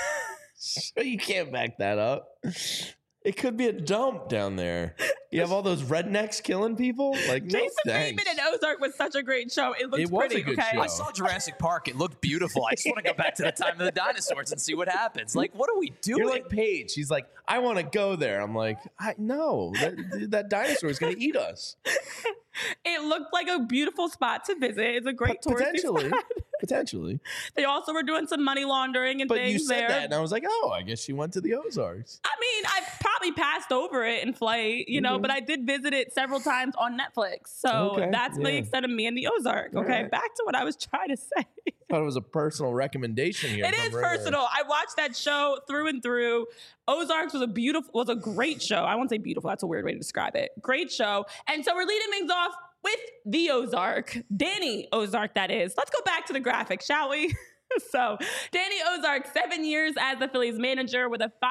B: You can't back that up. It could be a dump down there. You have all those rednecks killing people. Like,
A: Jason Bateman and Ozark was such a great show. It looks pretty. Okay,
C: I saw Jurassic Park. It looked beautiful. I just want to go back to the time of the dinosaurs and see what happens. Like, what are we doing?
B: You're like Paige. She's like, I want to go there. I'm like, no, that dinosaur is going to eat us.
A: It looked like a beautiful spot to visit. It's a great touristy spot.
B: Potentially.
A: They also were doing some money laundering and things there.
B: But you said that, and I was like, oh, I guess she went to the Ozarks.
A: I mean, I probably passed over it in flight, but I did visit it several times on Netflix. So that's the extent of me and the Ozark. Okay, back to what I was trying to say.
B: I thought it was a personal recommendation here.
A: It is personal. I watched that show through and through. Ozarks was a great show. I won't say beautiful. That's a weird way to describe it. Great show. And so we're leading things off with the Ozark. Danny Ozark, that is. Let's go back to the graphic, shall we? So Danny Ozark, 7 years as the Phillies manager with a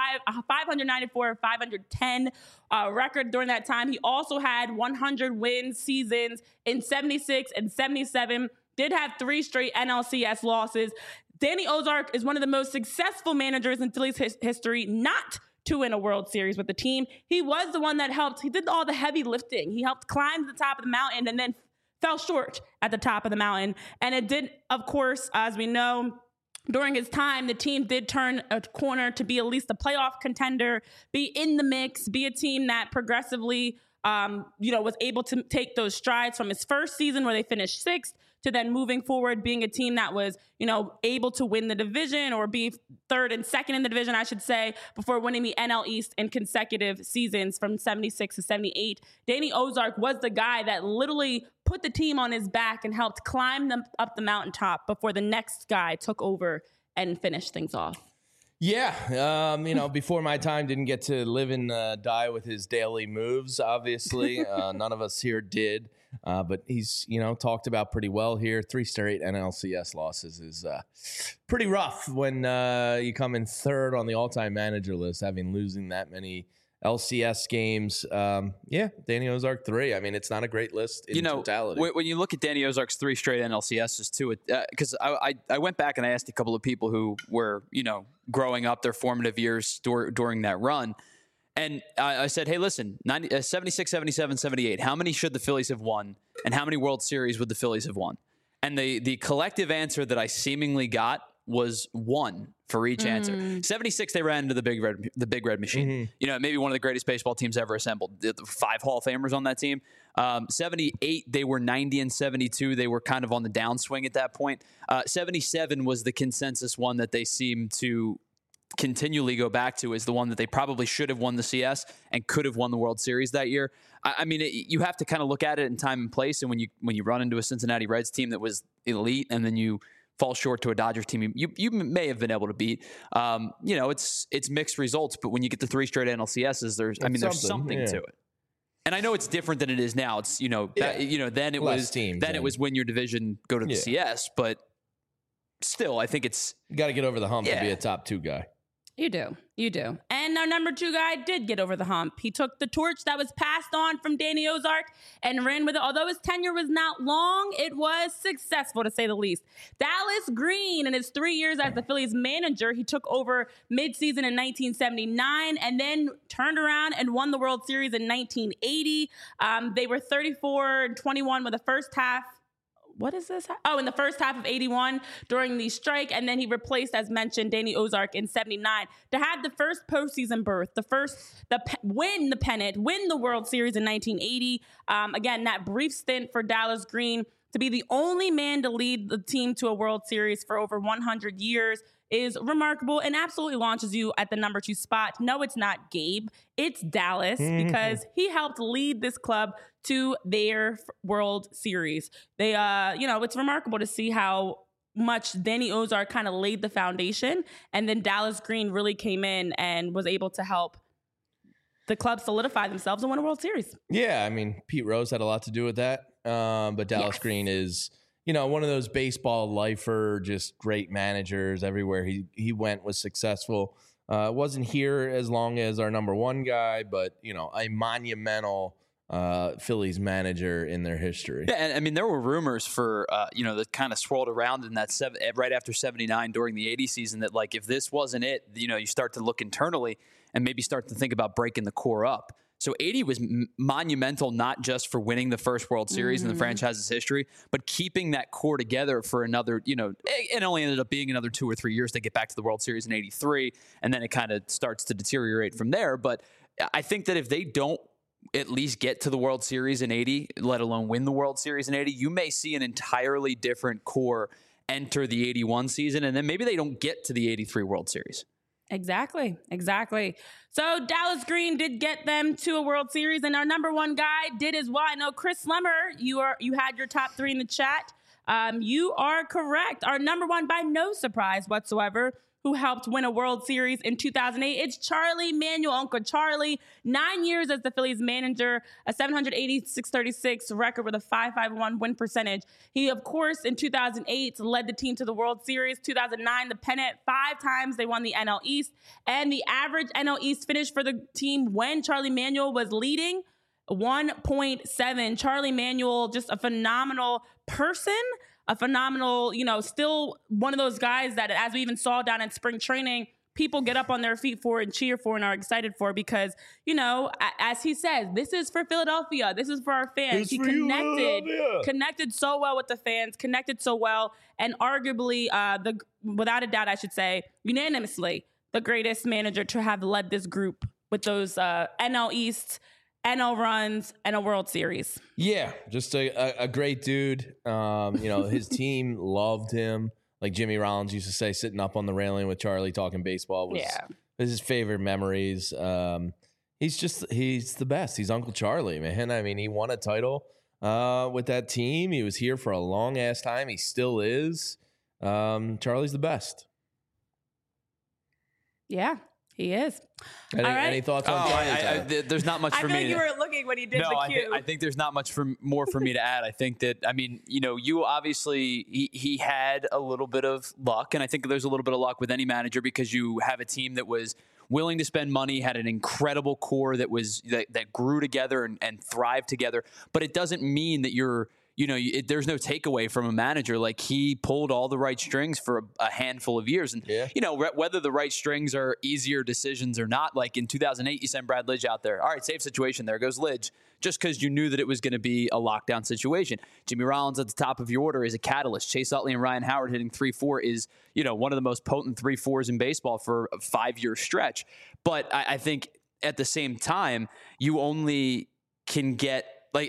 A: 594-510 record during that time. He also had 100 win seasons in 76 and 77. Did have 3 straight NLCS losses. Danny Ozark is one of the most successful managers in Phillies history not to win a World Series with the team. He was the one that helped. He did all the heavy lifting. He helped climb to the top of the mountain and then fell short at the top of the mountain. And it did, of course, as we know, during his time, the team did turn a corner to be at least a playoff contender, be in the mix, be a team that progressively, was able to take those strides from his first season where they finished 6th to then moving forward, being a team that was, able to win the division or be 3rd and 2nd in the division, I should say, before winning the NL East in consecutive seasons from 76 to 78. Danny Ozark was the guy that literally put the team on his back and helped climb them up the mountaintop before the next guy took over and finished things off.
B: Yeah, before my time, didn't get to live and die with his daily moves, obviously. None of us here did. But he's, talked about pretty well here. 3 straight NLCS losses is pretty rough when you come in 3rd on the all-time manager list, losing that many LCS games. Danny Ozark 3. I mean, it's not a great list in totality.
C: When you look at Danny Ozark's 3 straight NLCSs too, because I went back and I asked a couple of people who were, growing up their formative years during that run. And I said, hey, listen, 76, 77, 78, how many should the Phillies have won? And how many World Series would the Phillies have won? And the collective answer that I seemingly got was 1 for each answer. 76, they ran into the big red machine. You know, maybe one of the greatest baseball teams ever assembled. 5 Hall of Famers on that team. 78, they were 90 and 72. They were kind of on the downswing at that point. 77 was the consensus one that they seemed to continually go back to as the one that they probably should have won the CS and could have won the World Series that year. I mean, you have to kind of look at it in time and place. And when you run into a Cincinnati Reds team that was elite, and then you fall short to a Dodgers team you may have been able to beat, you know, it's mixed results. But when you get the 3 straight NLCSs, there's something to it. And I know it's different than it is now. It's, you know, then it was teams, then it was win your division, go to the CS. But still, I think it's
B: you got to get over the hump to be a top 2 guy.
A: You do. And our number 2 guy did get over the hump. He took the torch that was passed on from Danny Ozark and ran with it. Although his tenure was not long, it was successful, to say the least. Dallas Green, in his 3 years as the Phillies manager, he took over midseason in 1979 and then turned around and won the World Series in 1980. They were 34-21 with the first half. What is this? Oh, in the first half of 81 during the strike. And then he replaced, as mentioned, Danny Ozark in 79 to have the first postseason berth, win the pennant, win the World Series in 1980. Again, that brief stint for Dallas Green to be the only man to lead the team to a World Series for over 100 years is remarkable and absolutely launches you at the number 2 spot. No, it's not Gabe. It's Dallas because he helped lead this club to their World Series. They, it's remarkable to see how much Danny Ozark kind of laid the foundation, and then Dallas Green really came in and was able to help the club solidify themselves and win a World Series.
B: Yeah, I mean, Pete Rose had a lot to do with that, but Dallas Green is, you know, one of those baseball lifer, just great managers. Everywhere he went was successful. Wasn't here as long as our number 1 guy, but, you know, a monumental Phillies manager in their history.
C: Yeah, and I mean, there were rumors for, that kind of swirled around in that right after 79 during the 80 season that, like, if this wasn't it, you know, you start to look internally and maybe start to think about breaking the core up. So 80 was monumental, not just for winning the first World Series in the franchise's history, but keeping that core together for another, you know, it only ended up being another 2 or 3 years to get back to the World Series in 83. And then it kind of starts to deteriorate from there. But I think that if they don't at least get to the World Series in 80, let alone win the World Series in 80, you may see an entirely different core enter the 81 season. And then maybe they don't get to the 83 World Series.
A: Exactly. So Dallas Green did get them to a World Series, and our number 1 guy did as well. I know Chris Slemmer, you had your top 3 in the chat. You are correct. Our number 1, by no surprise whatsoever, who helped win a World Series in 2008. It's Charlie Manuel, Uncle Charlie. 9 years as the Phillies manager, a 780-636 record with a 5.51 win percentage. He, of course, in 2008 led the team to the World Series. 2009, the pennant. 5 times they won the NL East. And the average NL East finish for the team when Charlie Manuel was leading, 1.7. Charlie Manuel, just a phenomenal person. A phenomenal, still one of those guys that, as we even saw down in spring training, people get up on their feet for and cheer for and are excited for because, as he says, this is for Philadelphia. This is for our fans. He connected so well with the fans, connected so well, and arguably, without a doubt, I should say, unanimously, the greatest manager to have led this group with those NL East, NL runs, and a World Series.
B: Yeah, just a great dude. His team loved him. Like Jimmy Rollins used to say, sitting up on the railing with Charlie talking baseball was his favorite memories. He's the best. He's Uncle Charlie, man. I mean, he won a title with that team. He was here for a long ass time. He still is. Charlie's the best.
A: Yeah. He is.
B: Any thoughts on Charlie?
C: There's not much for me.
A: I feel like you were looking when he did the cue.
C: I think there's not much more for me to add. I think that, you obviously, he had a little bit of luck, and I think there's a little bit of luck with any manager because you have a team that was willing to spend money, had an incredible core that grew together and thrived together. But it doesn't mean that you're there's no takeaway from a manager. Like, he pulled all the right strings for a handful of years. And, whether the right strings are easier decisions or not, like in 2008, you send Brad Lidge out there. All right, safe situation. There goes Lidge. Just because you knew that it was going to be a lockdown situation. Jimmy Rollins at the top of your order is a catalyst. Chase Utley and Ryan Howard hitting 3-4 is, one of the most potent 3-4s in baseball for a 5-year stretch. But I think at the same time, you only can get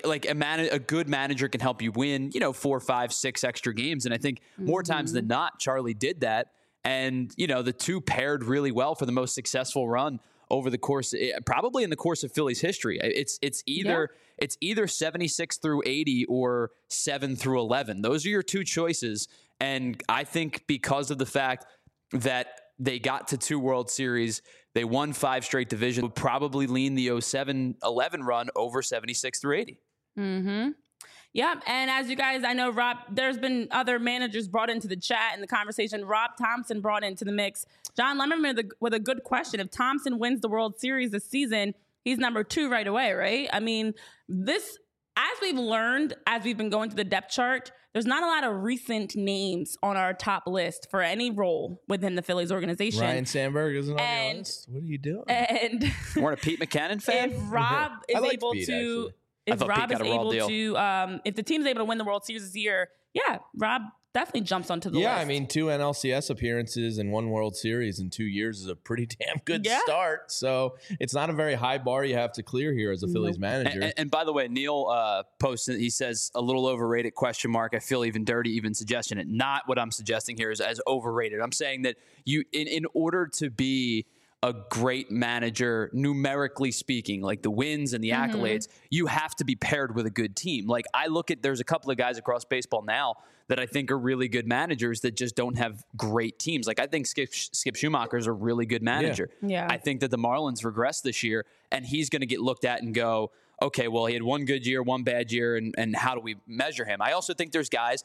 C: a good manager can help you win, 4, 5, 6 extra games. And I think more times than not, Charlie did that. And, the two paired really well for the most successful run over the course, probably in the course of Phillies history. It's either 76 through 80 or 7 through 11. Those are your two choices. And I think because of the fact that they got to 2 World Series, they won 5 straight divisions, would probably lean the 07-11 run over 76 through 80.
A: Mm-hmm. Yep. And as you guys, I know, Rob, there's been other managers brought into the chat and the conversation. Rob Thompson brought into the mix. John Lemmerman with a good question. If Thompson wins the World Series this season, he's number 2 right away, right? I mean, as we've learned, as we've been going to the depth chart, there's not a lot of recent names on our top list for any role within the Phillies organization.
B: Ryan Sandberg isn't on your list. What are you doing?
A: And
C: we're a Pete McCannon fan.
A: If Rob is able
B: Pete,
A: to...
B: actually.
A: If Rob is able to, if the team's able to win the World Series this year, Rob definitely jumps onto the list.
B: Yeah, I mean, 2 NLCS appearances and 1 World Series in 2 years is a pretty damn good start. So it's not a very high bar you have to clear here as a Phillies manager.
C: And by the way, Neil posted, he says, a little overrated question mark. I feel even dirty even suggesting it. Not what I'm suggesting here is as overrated. I'm saying that you, in order to be a great manager, numerically speaking, like the wins and the accolades, you have to be paired with a good team. Like, I look at, there's a couple of guys across baseball now that I think are really good managers that just don't have great teams. Like, I think Skip Schumacher is a really good manager.
A: Yeah.
C: I think that the Marlins regressed this year, and he's going to get looked at and go, okay, well, he had 1 good year, 1 bad year, and how do we measure him? I also think there's guys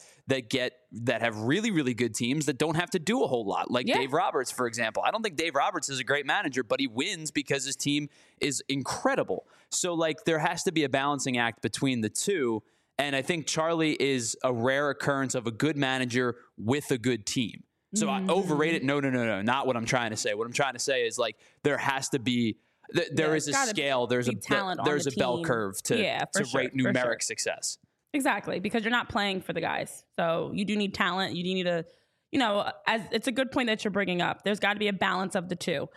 C: that have really, really good teams that don't have to do a whole lot, like Dave Roberts, for example. I don't think Dave Roberts is a great manager, but he wins because his team is incredible. So, like, there has to be a balancing act between the two, and I think Charlie is a rare occurrence of a good manager with a good team. So I overrate it. No, not what I'm trying to say. What I'm trying to say is, like, there has to be... There is a scale. There's a bell curve to rate numeric success.
A: Exactly, because you're not playing for the guys. So you do need talent. You do need to, as it's a good point that you're bringing up. There's got to be a balance of the two.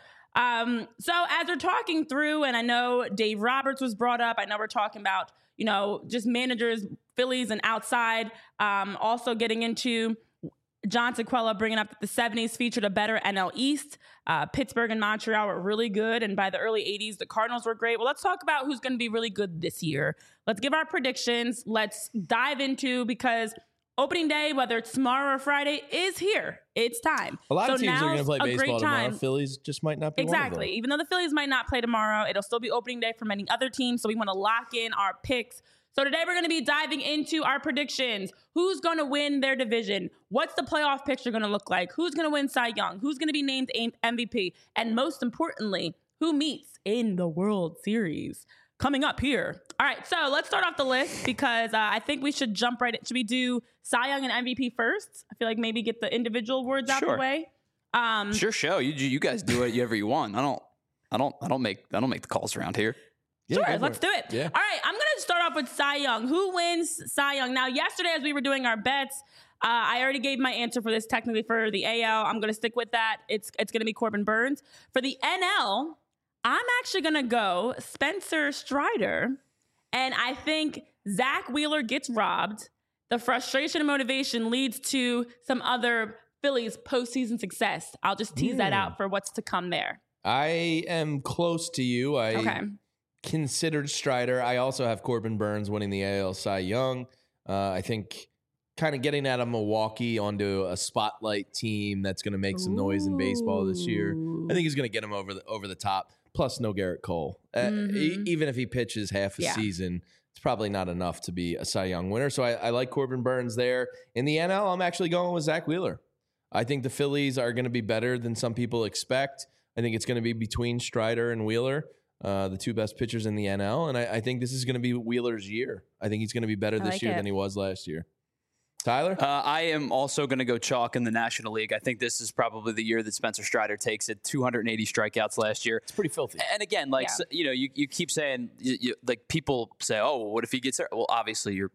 A: So as we're talking through, and I know Dave Roberts was brought up. I know we're talking about, just managers, Phillies and outside. Also getting into John Sequella bringing up that the 70s featured a better NL East. Pittsburgh and Montreal were really good. And by the early 80s, the Cardinals were great. Well, let's talk about who's going to be really good this year. Let's give our predictions. Let's dive into, because opening day, whether it's tomorrow or Friday, is here. It's time.
B: A lot of teams are going to play baseball tomorrow. Phillies just might not be one of them.
A: Exactly. Even though the Phillies might not play tomorrow, it'll still be opening day for many other teams. So we want to lock in our picks. So today we're going to be diving into our predictions. Who's going to win their division? What's the playoff picture going to look like? Who's going to win Cy Young? Who's going to be named MVP? And most importantly, who meets in the World Series? Coming up here. All right, so let's start off the list, because I think we should jump right in. Should we do Cy Young and MVP first? I feel like maybe get the individual awards out the way.
C: Sure, show you guys do whatever you want. I don't make the calls around here.
A: Sure, let's do it. Yeah. All right, I'm going to start off with Cy Young. Who wins Cy Young? Now, yesterday as we were doing our bets, I already gave my answer for this technically for the AL. I'm going to stick with that. It's going to be Corbin Burns. For the NL, I'm actually going to go Spencer Strider. And I think Zach Wheeler gets robbed. The frustration and motivation leads to some other Phillies postseason success. I'll just tease that out for what's to come there.
B: I am close to you. Okay. Considered Strider. I also have Corbin Burns winning the AL Cy Young. I think kind of getting out of Milwaukee onto a spotlight team that's going to make some noise in baseball this year. I think he's going to get him over the top. Plus, no Garrett Cole. Even if he pitches half a season, it's probably not enough to be a Cy Young winner. So I like Corbin Burns there. In the NL, I'm actually going with Zach Wheeler. I think the Phillies are going to be better than some people expect. I think it's going to be between Strider and Wheeler. the two best pitchers in the NL. And I think this is going to be Wheeler's year. I think he's going to be better this year than he was last year. Tyler?
C: I am also going to go chalk in the National League. I think this is probably the year that Spencer Strider takes it. 280 strikeouts last year.
B: It's pretty filthy.
C: And again, you keep saying, like people say, oh, what if he gets hurt? Well, obviously you're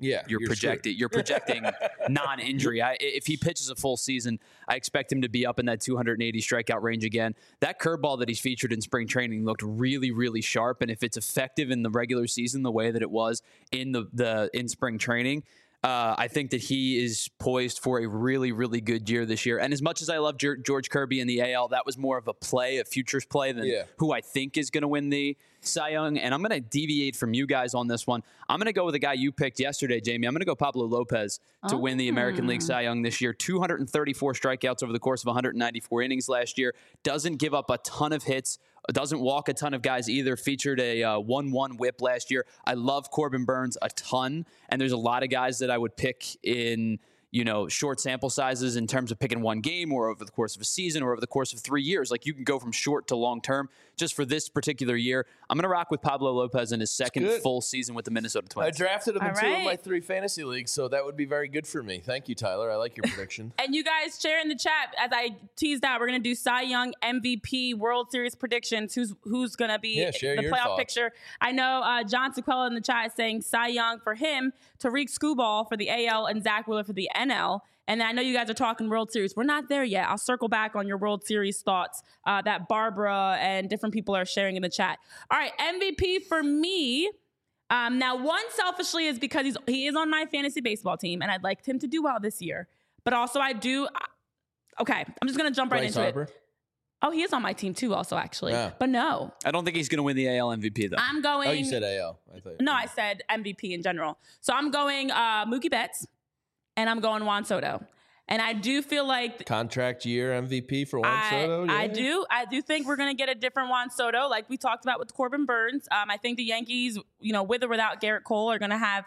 C: projecting non-injury. If he pitches a full season, I expect him to be up in that 280 strikeout range again. That curveball that he's featured in spring training looked really, really sharp. And if it's effective in the regular season the way that it was in in spring training, I think that he is poised for a really, really good year this year. And as much as I love George Kirby in the AL, that was more of a futures play than who I think is going to win the Cy Young. And I'm going to deviate from you guys on this one. I'm going to go with a guy you picked yesterday, Jamie. I'm going to go Pablo Lopez to win the American League Cy Young this year. 234 strikeouts over the course of 194 innings last year. Doesn't give up a ton of hits. Doesn't walk a ton of guys either. Featured a 1-1 whip last year. I love Corbin Burns a ton, and there's a lot of guys that I would pick in short sample sizes in terms of picking one game or over the course of a season or over the course of 3 years. Like you can go from short to long term. Just for this particular year, I'm going to rock with Pablo Lopez in his second full season with the Minnesota Twins.
B: I drafted him in 2 of my 3 fantasy leagues, so that would be very good for me. Thank you, Tyler. I like your prediction.
A: And you guys share in the chat, as I teased out, we're going to do Cy Young, MVP, World Series predictions. Who's going to be the playoff picture? I know John Sequella in the chat is saying Cy Young for him, Tariq Skubal for the AL, and Zach Wheeler for the NL. And I know you guys are talking World Series. We're not there yet. I'll circle back on your World Series thoughts that Barbara and different people are sharing in the chat. All right, MVP for me. Now, one selfishly is because he is on my fantasy baseball team, and I'd like him to do well this year. But also I do. Okay, I'm just going to jump right into it. Oh, he is on my team too also, actually. Yeah. But no.
C: I don't think he's going to win the AL MVP, though.
A: I'm going.
B: Oh, you said AL.
A: I said MVP in general. So I'm going Mookie Betts. And I'm going Juan Soto. And I do feel like
B: contract year MVP for Juan Soto. Yeah.
A: I do think we're going to get a different Juan Soto, like we talked about with Corbin Burns. I think the Yankees, with or without Garrett Cole, are going to have,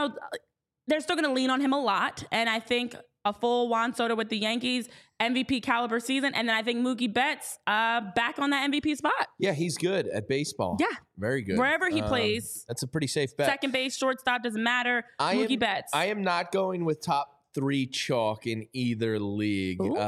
A: they're still going to lean on him a lot. And I think a full Juan Soto with the Yankees, MVP caliber season. And then I think Mookie Betts back on that MVP spot.
B: Yeah, he's good at baseball.
A: Yeah.
B: Very good.
A: Wherever he plays.
B: That's a pretty safe bet.
A: Second base, shortstop, doesn't matter. Mookie Betts.
B: I am not going with top 3 chalk in either league. It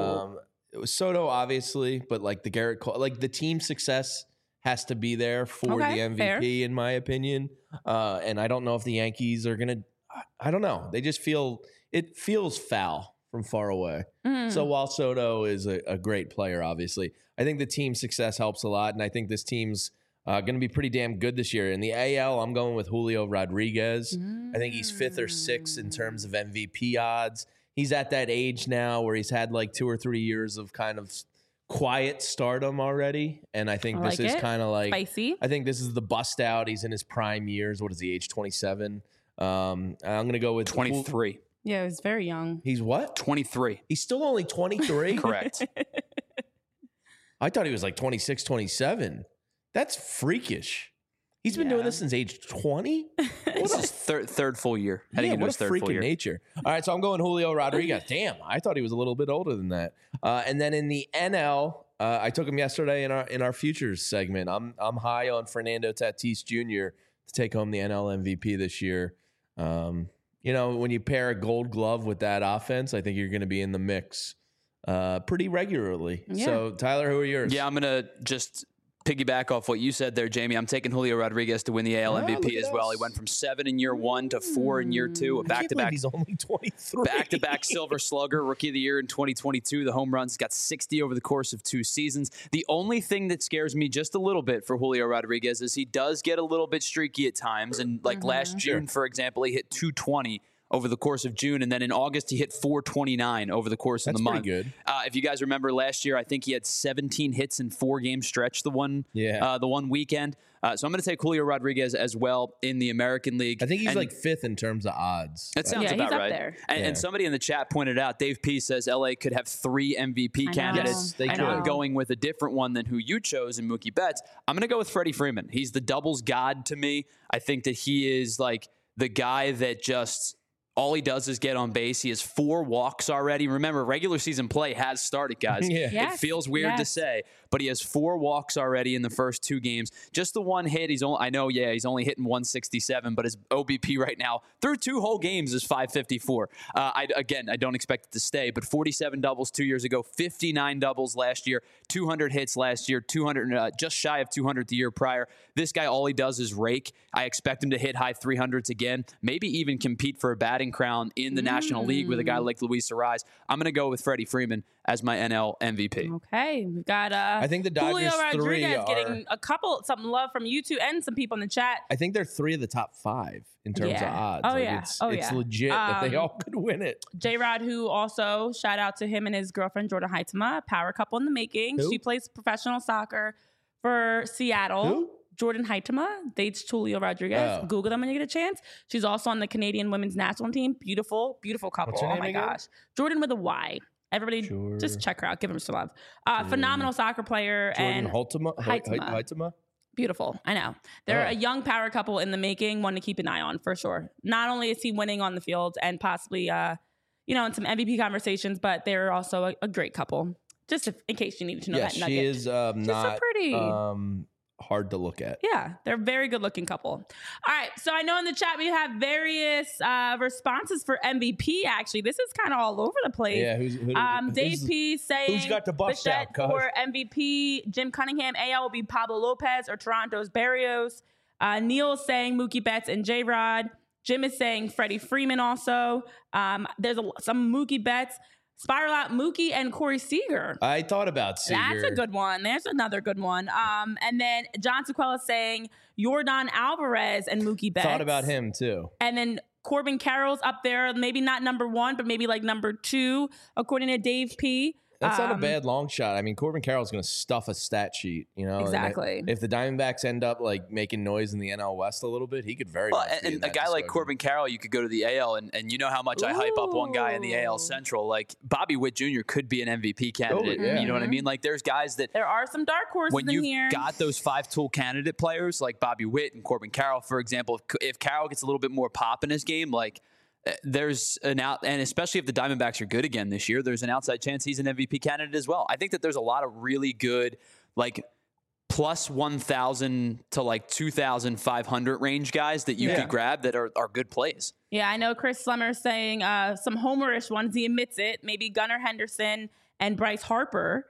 B: was Soto, obviously, but like the Garrett Cole, like the team success has to be there for the MVP, fair. In my opinion. And I don't know if the Yankees are going to, I don't know. They just it feels foul from far away. So while Soto is a great player, obviously, I think the team success helps a lot. And I think this team's going to be pretty damn good this year. In the AL, I'm going with Julio Rodriguez. I think he's 5th or 6th in terms of MVP odds. He's at that age now where he's had like 2 or 3 years of kind of quiet stardom already. And I think this is kind of like
A: spicy.
B: I think this is the bust out. He's in his prime years. What is he, age 27? I'm going to go with
C: 23.
A: Yeah, he's very young.
B: He's what?
C: 23.
B: He's still only 23?
C: Correct.
B: I thought he was like 26, 27. That's freakish. He's been doing this since age 20?
C: This is third full year. Heading into his third full year.
B: Nature. All right, so I'm going Julio Rodriguez. Damn, I thought he was a little bit older than that. And then in the NL, I took him yesterday in our futures segment. I'm high on Fernando Tatis Jr. to take home the NL MVP this year. When you pair a Gold Glove with that offense, I think you're going to be in the mix pretty regularly. Yeah. So, Tyler, who are yours?
C: Yeah, I'm going to just piggyback off what you said there, Jamie. I'm taking Julio Rodriguez to win the AL MVP as well. He went from 7 in year 1 to 4 in year 2. Back-to-back.
B: He's only 23.
C: Back-to-back Silver Slugger, Rookie of the Year in 2022. The home runs got 60 over the course of 2 seasons. The only thing that scares me just a little bit for Julio Rodriguez is he does get a little bit streaky at times. And like last June, for example, he hit 220 over the course of June, and then in August he hit 429 over the course of the month.
B: That's pretty good.
C: If you guys remember last year, I think he had 17 hits in 4-game stretch the one weekend. So I'm going to take Julio Rodriguez as well in the American League.
B: I think he's like 5th in terms of odds.
C: That sounds about
A: he's
C: right.
A: Up there.
C: And somebody in the chat pointed out, Dave P says LA could have 3 MVP candidates.
B: Yes, they could.
C: I'm going with a different one than who you chose in Mookie Betts. I'm going to go with Freddie Freeman. He's the doubles god to me. I think that he is like the guy that just all he does is get on base. He has 4 walks already. Remember, regular season play has started, guys. It feels weird to say, but he has 4 walks already in the first 2 games. Just the one hit. He's only hitting 167, but his OBP right now through 2 whole games is 554. I don't expect it to stay, but 47 doubles 2 years ago, 59 doubles last year, 200 hits last year, 200 just shy of 200 the year prior. This guy, all he does is rake. I expect him to hit high 300s again, maybe even compete for a batting crown in the National League with a guy like Luis Arraez. I'm going to go with Freddie Freeman as my NL MVP.
A: Okay, we've got
B: I think the Dodgers
A: Julio Rodriguez getting some love from you two and some people in the chat.
B: I think they're 3 of the top 5 in terms of odds.
A: Oh,
B: like
A: yeah.
B: It's legit that they all could win it.
A: J-Rod, who also, shout out to him and his girlfriend, Jordan Heitema, power couple in the making.
B: Who?
A: She plays professional soccer for Seattle.
B: Who?
A: Jordan Heitema dates Julio Rodriguez.
B: Oh.
A: Google them when you get a chance. She's also on the Canadian women's national team. Beautiful, beautiful couple.
B: What's her name again?
A: Gosh. Jordan with a Y. Everybody just check her out. Give her some love. Phenomenal soccer player.
B: Jordan
A: and
B: Heitema?
A: Beautiful. I know. They're a young power couple in the making, one to keep an eye on for sure. Not only is he winning on the field and possibly, in some MVP conversations, but they're also a great couple. Just in case you needed to know that nugget.
B: She is
A: She's
B: not
A: so pretty.
B: hard to look at.
A: Yeah, they're a very good looking couple. All right, so I know in the chat we have various responses for MVP. Actually, this is kind of all over the place.
B: Yeah,
A: Dave P saying
B: who's got the bust
A: Bichette
B: out, cuz?
A: for MVP. Jim Cunningham, AL will be Pablo Lopez or Toronto's Barrios. Neil saying Mookie Betts and J-Rod. Jim is saying Freddie Freeman also. There's some Mookie Betts. Spiral Out Mookie and Corey Seager.
B: I thought about Seager.
A: That's a good one. There's another good one. And then John Sequela saying Yordan Alvarez and Mookie Betts.
B: Thought about him too.
A: And then Corbin Carroll's up there, maybe not number 1, but maybe like number 2, according to Dave P.
B: That's not a bad long shot. I mean, Corbin Carroll's going to stuff a stat sheet,
A: Exactly.
B: And if the Diamondbacks end up like making noise in the NL West a little bit, he could very much be in
C: and
B: that
C: a guy like Corbin Carroll, you could go to the AL, and you know how much I hype up one guy in the AL Central. Like Bobby Witt Jr. could be an MVP candidate.
B: yeah.
C: You know what I mean? Like there's guys that
A: there are some dark horses
C: when
A: in
C: you've
A: here.
C: got those 5-tool candidate players like Bobby Witt and Corbin Carroll, for example. If Carroll gets a little bit more pop in his game, like there's an out, and especially if the Diamondbacks are good again this year, there's an outside chance he's an MVP candidate as well. I think that there's a lot of really good, like plus 1,000 to like 2,500 range guys that you could grab that are good plays.
A: Yeah, I know Chris Slemmer saying some homerish ones. He admits it. Maybe Gunnar Henderson and Bryce Harper.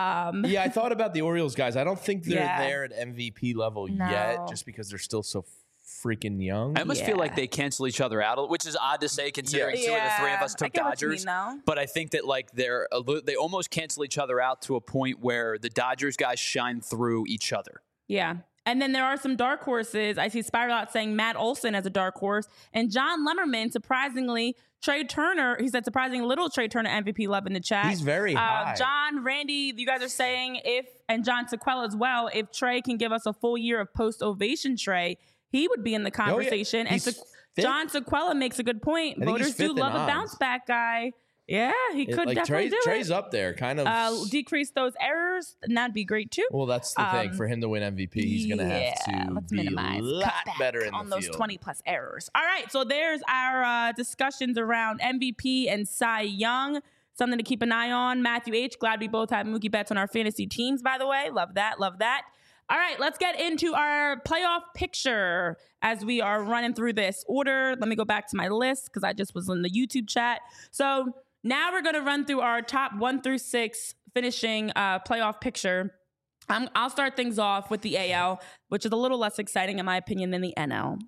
B: I thought about the Orioles guys. I don't think they're there at MVP level yet, just because they're still so freaking young.
C: I almost feel like they cancel each other out, which is odd to say considering 2 of the 3 of us took Dodgers. But I think that like they almost cancel each other out to a point where the Dodgers guys shine through each other.
A: Yeah. And then there are some dark horses. I see Spiral Out saying Matt Olson as a dark horse. And John Lemmerman, surprisingly, Trey Turner, he said surprising little Trey Turner MVP love in the chat.
B: He's very high.
A: John, Randy, you guys are saying and John Sequela as well, if Trey can give us a full year of post-ovation Trey, he would be in the conversation. And John Sequela makes a good point. Voters do love a bounce back guy. Yeah, he could definitely do it.
B: Trey's up there, kind of.
A: Decrease those errors, and that'd be great too.
B: Well, that's the thing. For him to win MVP, he's going to have to be a lot better in the field.
A: On those 20-plus errors. All right, so there's our discussions around MVP and Cy Young. Something to keep an eye on. Matthew H., glad we both have Mookie Betts on our fantasy teams, by the way. Love that, love that. All right, let's get into our playoff picture as we are running through this order. Let me go back to my list because I just was in the YouTube chat. So now we're going to run through our top 1 through 6 finishing playoff picture. I'll start things off with the AL, which is a little less exciting in my opinion than the NL.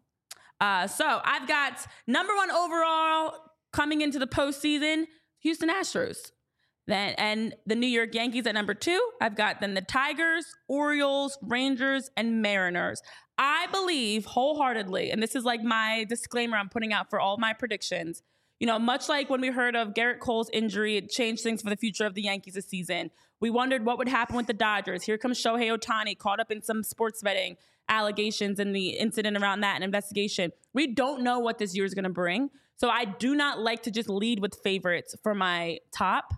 A: So I've got number 1 overall coming into the postseason, Houston Astros. And the New York Yankees at number 2. I've got then the Tigers, Orioles, Rangers, and Mariners. I believe wholeheartedly, and this is like my disclaimer I'm putting out for all my predictions, much like when we heard of Garrett Cole's injury, it changed things for the future of the Yankees this season. We wondered what would happen with the Dodgers. Here comes Shohei Ohtani, caught up in some sports betting allegations and the incident around that and investigation. We don't know what this year is going to bring. So I do not like to just lead with favorites for my top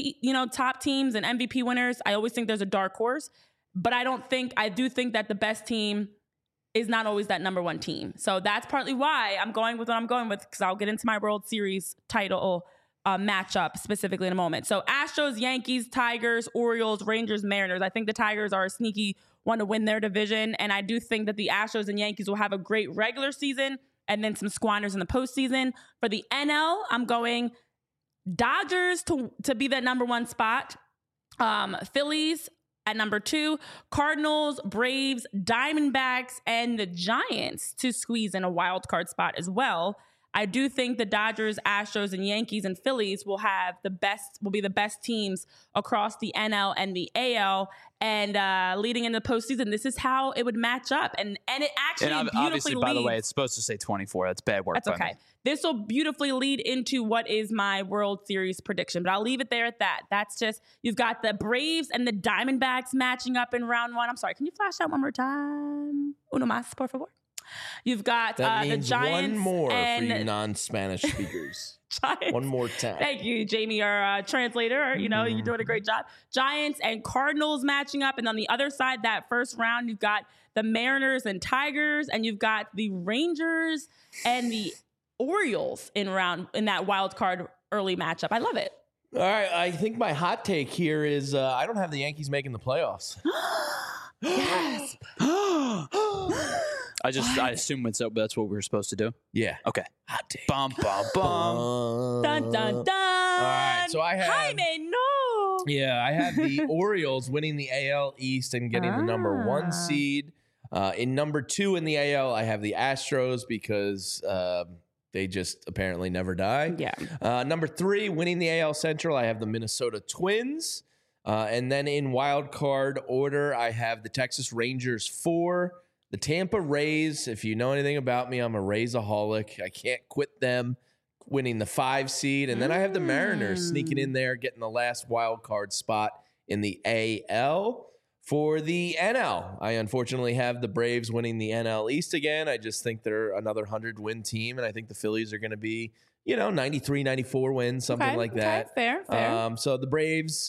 A: teams and MVP winners. I always think there's a dark horse, but I do think that the best team is not always that number 1 team. So that's partly why I'm going with what I'm going with, because I'll get into my World Series title matchup specifically in a moment. So Astros, Yankees, Tigers, Orioles, Rangers, Mariners. I think the Tigers are a sneaky one to win their division. And I do think that the Astros and Yankees will have a great regular season and then some squanders in the postseason. For the NL, I'm going Dodgers to be that number one spot. Phillies at number 2, Cardinals, Braves, Diamondbacks, and the Giants to squeeze in a wild card spot as well. I do think the Dodgers, Astros, and Yankees and Phillies will be the best teams across the NL and the AL. And leading into the postseason, this is how it would match up. And it actually beautifully
C: obviously, by the way, it's supposed to say 24. That's bad work.
A: That's okay. This will beautifully lead into what is my World Series prediction, but I'll leave it there at that. That's just, you've got the Braves and the Diamondbacks matching up in round 1. I'm sorry, can you flash that one more time? Uno más, por favor. You've got the Giants.
B: One more for you non-Spanish speakers.
A: Giants.
B: One more time.
A: Thank you, Jamie, our translator. You know, you're doing a great job. Giants and Cardinals matching up. And on the other side, that first round, you've got the Mariners and Tigers, and you've got the Rangers and the Orioles in that wild card early matchup. I love it.
B: All right. I think my hot take here is I don't have the Yankees making the playoffs.
A: Yes.
C: I assume that's what we were supposed to do.
B: Yeah.
C: Okay.
B: Hot take.
C: Bum, bum, bum.
A: Dun, dun, dun.
B: All right. So I have.
A: Jaime, no.
B: Yeah, I have the Orioles winning the AL East and getting the number 1 seed. In number 2 in the AL, I have the Astros because they just apparently never die.
A: Yeah.
B: Number 3, winning the AL Central, I have the Minnesota Twins. And then in wild card order, I have the Texas Rangers 4, the Tampa Rays. If you know anything about me, I'm a Raysaholic. I can't quit them, winning the 5 seed. And then I have the Mariners sneaking in there, getting the last wild card spot in the AL. For the NL, I unfortunately have the Braves winning the NL East again. I just think they're another 100-win team, and I think the Phillies are going to be, 93, 94 wins, something like that.
A: Fair.
B: So the Braves...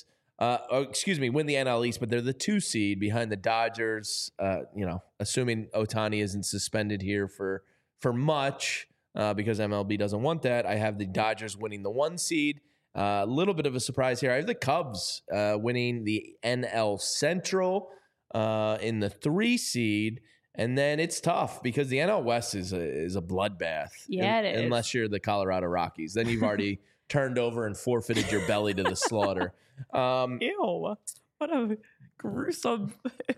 B: win the NL East, but they're the 2 seed behind the Dodgers. Assuming Ohtani isn't suspended here for much, because MLB doesn't want that. I have the Dodgers winning the 1 seed. A little bit of a surprise here. I have the Cubs winning the NL Central in the 3 seed. And then it's tough because the NL West is a bloodbath.
A: Yeah, it is.
B: Unless you're the Colorado Rockies. Then you've already turned over and forfeited your belly to the slaughter.
A: Ew. What a gruesome...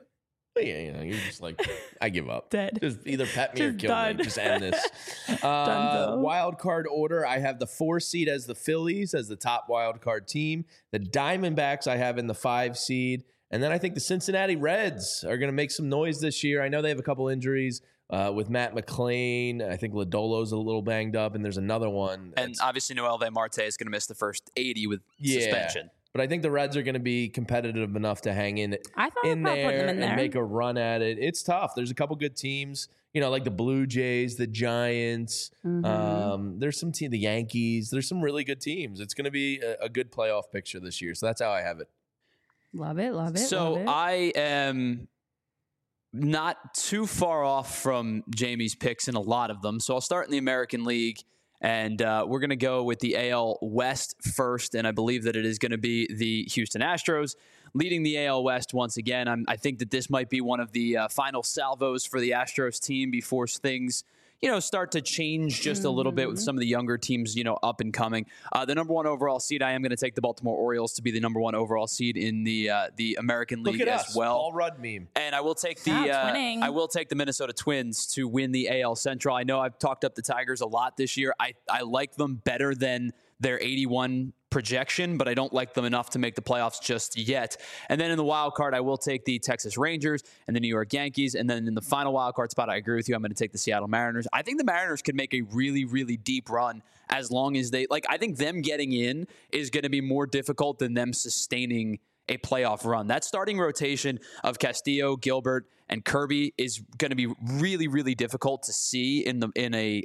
B: Yeah, you're just like, I give up.
A: Dead.
B: Just either pet me or
A: Just
B: kill
A: done.
B: me. Just end this.
A: Dunzo.
B: Wild card order, I have the 4 seed as the Phillies as the top wild card team. The Diamondbacks I have in the 5 seed. And then I think the Cincinnati Reds are going to make some noise this year. I know they have a couple injuries with Matt McClain. I think Lodolo's a little banged up, and there's another one.
C: And obviously Noelvi Marte is going to miss the first 80 with suspension.
B: But I think the Reds are going to be competitive enough to hang in
A: I thought about putting them in there
B: and make a run at it. It's tough. There's a couple good teams, like the Blue Jays, the Giants. There's some the Yankees. There's some really good teams. It's going to be a good playoff picture this year. So that's how I have it.
A: Love it.
C: So I am not too far off from Jamie's picks in a lot of them. So I'll start in the American League. And we're going to go with the AL West first, and I believe that it is going to be the Houston Astros leading the AL West once again. I think that this might be one of the final salvos for the Astros team before things, start to change just a little bit with some of the younger teams, up and coming. The number 1 overall seed, I am going to take the Baltimore Orioles to be the number 1 overall seed in the American League as well.
B: Paul Rudd meme.
C: And I will take the Minnesota Twins to win the AL Central. I know I've talked up the Tigers a lot this year. I like them better than their 81 projection, but I don't like them enough to make the playoffs just yet. And then in the wild card, I will take the Texas Rangers and the New York Yankees. And then in the final wild card spot, I agree with you. I'm going to take the Seattle Mariners. I think the Mariners could make a really, really deep run as long as I think them getting in is going to be more difficult than them sustaining a playoff run. That starting rotation of Castillo, Gilbert, and Kirby is going to be really, really difficult to see in a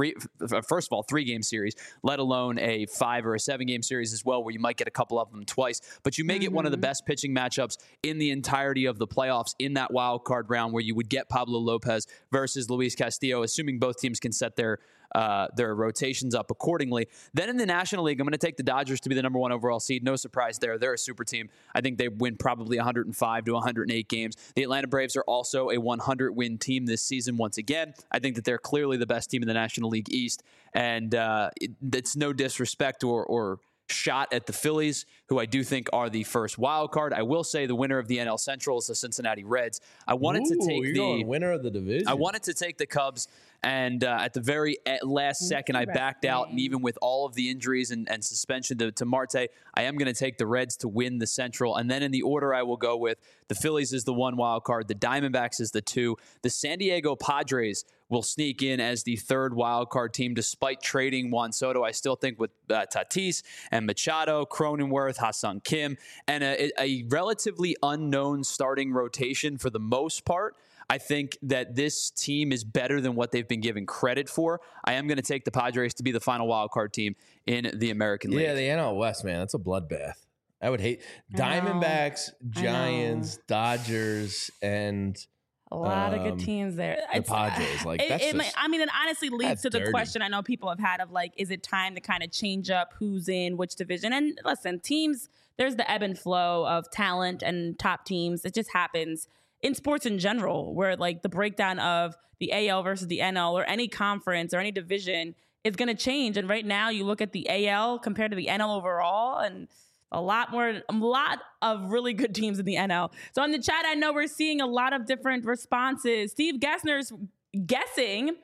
C: 3-game series, let alone a 5 or a 7-game series as well, where you might get a couple of them twice. But you may get one of the best pitching matchups in the entirety of the playoffs in that wild card round, where you would get Pablo Lopez versus Luis Castillo, assuming both teams can set their their rotations up accordingly. Then in the National League, I'm going to take the Dodgers to be the number 1 overall seed. No surprise there. They're a super team. I think they win probably 105 to 108 games. The Atlanta Braves are also a 100-win team this season once again. I think that they're clearly the best team in the National League East, and it's no disrespect or shot at the Phillies, who I do think are the first wild card. I will say the winner of the NL Central is the Cincinnati Reds. I wanted to take the
B: winner of the division.
C: I wanted to take the Cubs, and at the very last second, I backed out. And even with all of the injuries and suspension to Marte, I am going to take the Reds to win the Central. And then in the order I will go with, the Phillies is the 1 wild card, the Diamondbacks is the 2, the San Diego Padres will sneak in as the 3rd wild card team, despite trading Juan Soto. I still think with Tatis and Machado, Cronenworth, Ha-Seong Kim, and a relatively unknown starting rotation for the most part, I think that this team is better than what they've been given credit for. I am going to take the Padres to be the final wild card team in the American League.
B: Yeah, the NL West, man, that's a bloodbath. I would hate Diamondbacks, Giants, Dodgers, and
A: a lot of good teams there.
B: The Padres,
A: it honestly leads to the question I know people have had of like, is it time to kind of change up who's in which division? And listen, teams, there's the ebb and flow of talent and top teams. It just happens in sports in general, where like the breakdown of the AL versus the NL or any conference or any division is going to change. And right now, you look at the AL compared to the NL overall, and a lot of really good teams in the NL. So in the chat, I know we're seeing a lot of different responses. Steve Gessner is guessing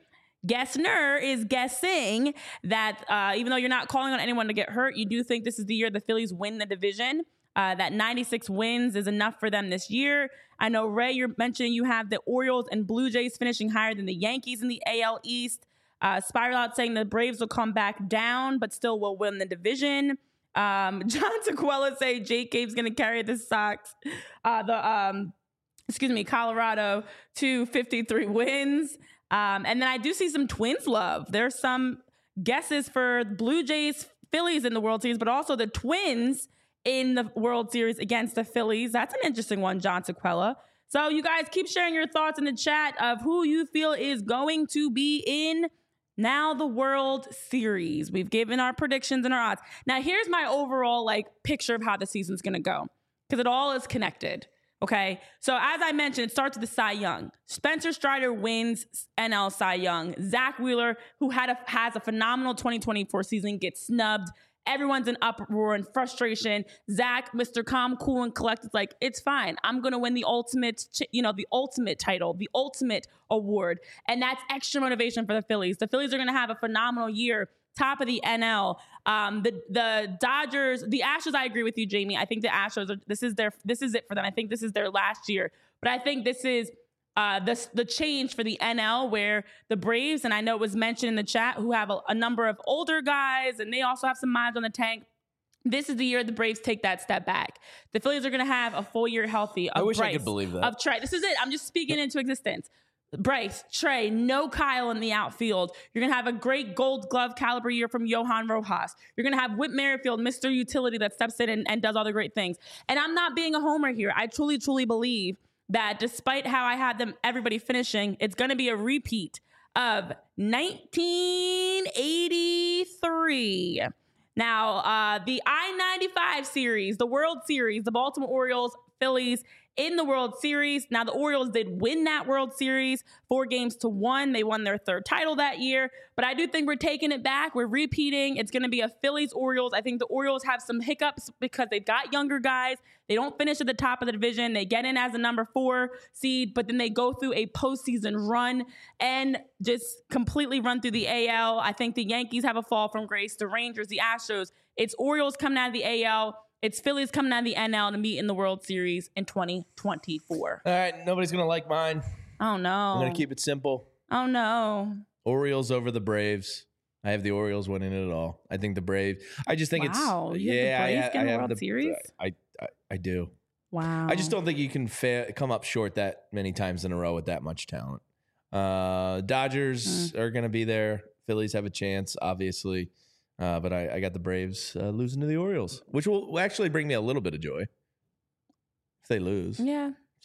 A: that even though you're not calling on anyone to get hurt, you do think this is the year the Phillies win the division. That 96 wins is enough for them this year. I know, Ray, you're mentioning you have the Orioles and Blue Jays finishing higher than the Yankees in the AL East. Spiral Out saying the Braves will come back down, but still will win the division. John Tequila say Jake Gabe's going to carry the Sox, Colorado to 53 wins. And then I do see some Twins love. There's some guesses for Blue Jays, Phillies in the World Series, but also the Twins in the World Series against the Phillies. That's an interesting one, John Tequila. So you guys keep sharing your thoughts in the chat of who you feel is going to be in now the World Series. We've given our predictions and our odds. Now, here's my overall picture of how the season's going to go, because it all is connected. Okay, so as I mentioned, it starts with the Cy Young. Spencer Strider wins NL Cy Young. Zach Wheeler, who has a phenomenal 2024 season, gets snubbed. Everyone's in uproar and frustration. Zach, Mr. Calm, Cool, and Collected, like, it's fine. I'm going to win the ultimate, the ultimate title, the ultimate award. And that's extra motivation for the Phillies. The Phillies are going to have a phenomenal year, top of the NL. The Dodgers, the Astros, I agree with you, Jamie. I think the Astros, this is it for them. I think this is their last year. But I think this is the change for the NL, where the Braves, and I know it was mentioned in the chat, who have a number of older guys, and they also have some miles on the tank. This is the year the Braves take that step back. The Phillies are going to have a full year healthy of
B: I wish
A: Bryce,
B: I could believe that.
A: of Trey. This is it. I'm just speaking into existence. Bryce, Trey, no Kyle in the outfield. You're going to have a great Gold Glove caliber year from Johan Rojas. You're going to have Whit Merrifield, Mr. Utility, that steps in and does all the great things. And I'm not being a homer here. I truly, truly believe that despite how I had everybody finishing, it's going to be a repeat of 1983. Now, the I-95 series, the World Series, the Baltimore Orioles, Phillies in the World Series. Now, the Orioles did win that World Series 4-1. They won their third title that year. But I do think we're taking it back. We're repeating. It's going to be a Phillies-Orioles. I think the Orioles have some hiccups because they've got younger guys. They don't finish at the top of the division. They get in as a number 4 seed, but then they go through a postseason run and just completely run through the AL. I think the Yankees have a fall from grace. The Rangers, the Astros. It's Orioles coming out of the AL. It's Phillies coming out of the NL to meet in the World Series in 2024.
B: All right, nobody's going to like mine.
A: Oh, no.
B: I'm going to keep it simple.
A: Oh, no.
B: Orioles over the Braves. I have the Orioles winning it all. I think the Braves. I just think
A: you have the Braves in the World Series?
B: I do.
A: Wow.
B: I just don't think you can come up short that many times in a row with that much talent. Dodgers are going to be there. Phillies have a chance, obviously. But I got the Braves losing to the Orioles, which will actually bring me a little bit of joy if they lose.
A: Yeah.
B: So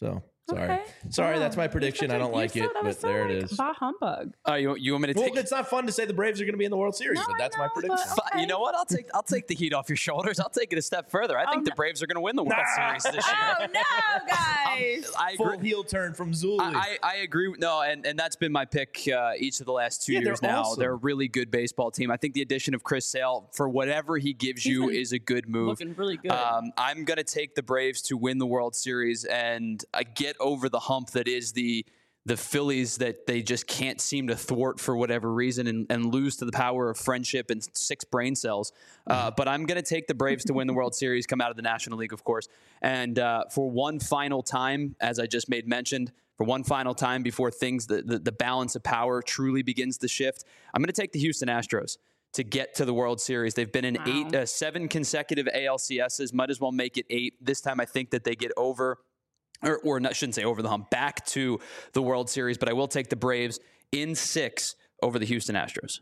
B: Sorry, that's my prediction. I don't like it, but there it is.
A: Bah humbug.
C: You want me to take?
B: Well, it's not fun to say the Braves are going to be in the World Series, but that's my prediction.
C: Okay. You know what? I'll take the heat off your shoulders. I'll take it a step further. I think the Braves are going to win the World Series this year.
A: Oh no, guys!
B: I agree. Full heel turn from Zuli.
C: I agree. No, and that's been my pick each of the last 2 years now.
B: Awesome.
C: They're a really good baseball team. I think the addition of Chris Sale, for whatever he gives you, is a good move.
A: Looking really good.
C: I'm going to take the Braves to win the World Series and get over the hump that is the Phillies, that they just can't seem to thwart for whatever reason and lose to the power of friendship and 6 brain cells. But I'm going to take the Braves to win the World Series, come out of the National League, of course. And for one final time, as I just made mentioned, for one final time before things, the balance of power truly begins to shift, I'm going to take the Houston Astros to get to the World Series. They've been in 7 consecutive ALCSs, might as well make it 8. This time I think that they get over, or not, shouldn't say over the hump, back to the World Series, but I will take the Braves in 6 over the Houston Astros.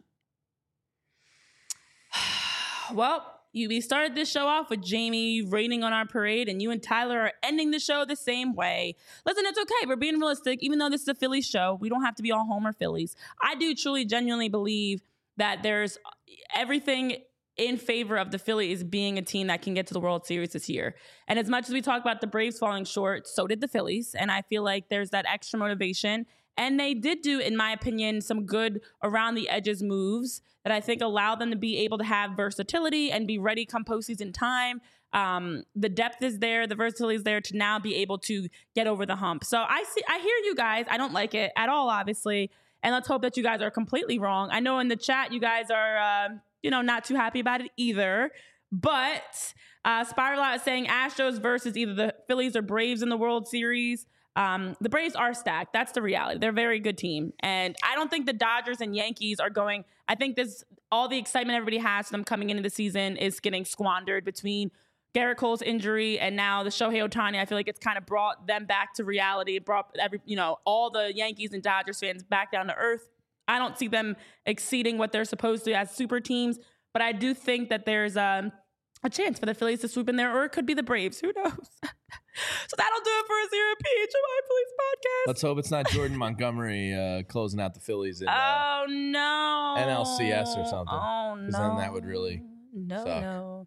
A: Well, we started this show off with Jamie raining on our parade, and you and Tyler are ending the show the same way. Listen, it's okay. We're being realistic. Even though this is a Phillies show, we don't have to be all Homer Phillies. I do truly, genuinely believe that there's everything in favor of the Phillies being a team that can get to the World Series this year. And as much as we talk about the Braves falling short, so did the Phillies. And I feel like there's that extra motivation. And they did do, in my opinion, some good around the edges moves that I think allow them to be able to have versatility and be ready come postseason time. The depth is there, the versatility is there to now be able to get over the hump. So I hear you guys. I don't like it at all, obviously. And let's hope that you guys are completely wrong. I know in the chat you guys are, not too happy about it either. But Spiral Out is saying Astros versus either the Phillies or Braves in the World Series. The Braves are stacked. That's the reality. They're a very good team. And I don't think the Dodgers and Yankees are going. I think all the excitement everybody has for them coming into the season is getting squandered between Garrett Cole's injury and now the Shohei Ohtani. I feel like it's kind of brought them back to reality. It brought all the Yankees and Dodgers fans back down to earth. I don't see them exceeding what they're supposed to as super teams, but I do think that there's a chance for the Phillies to swoop in there, or it could be the Braves. Who knows? So that'll do it for us here at PHMI Phillies Podcast.
B: Let's hope it's not Jordan Montgomery closing out the Phillies in
A: NLCS
B: or something.
A: Oh, no.
B: Because then that would really suck.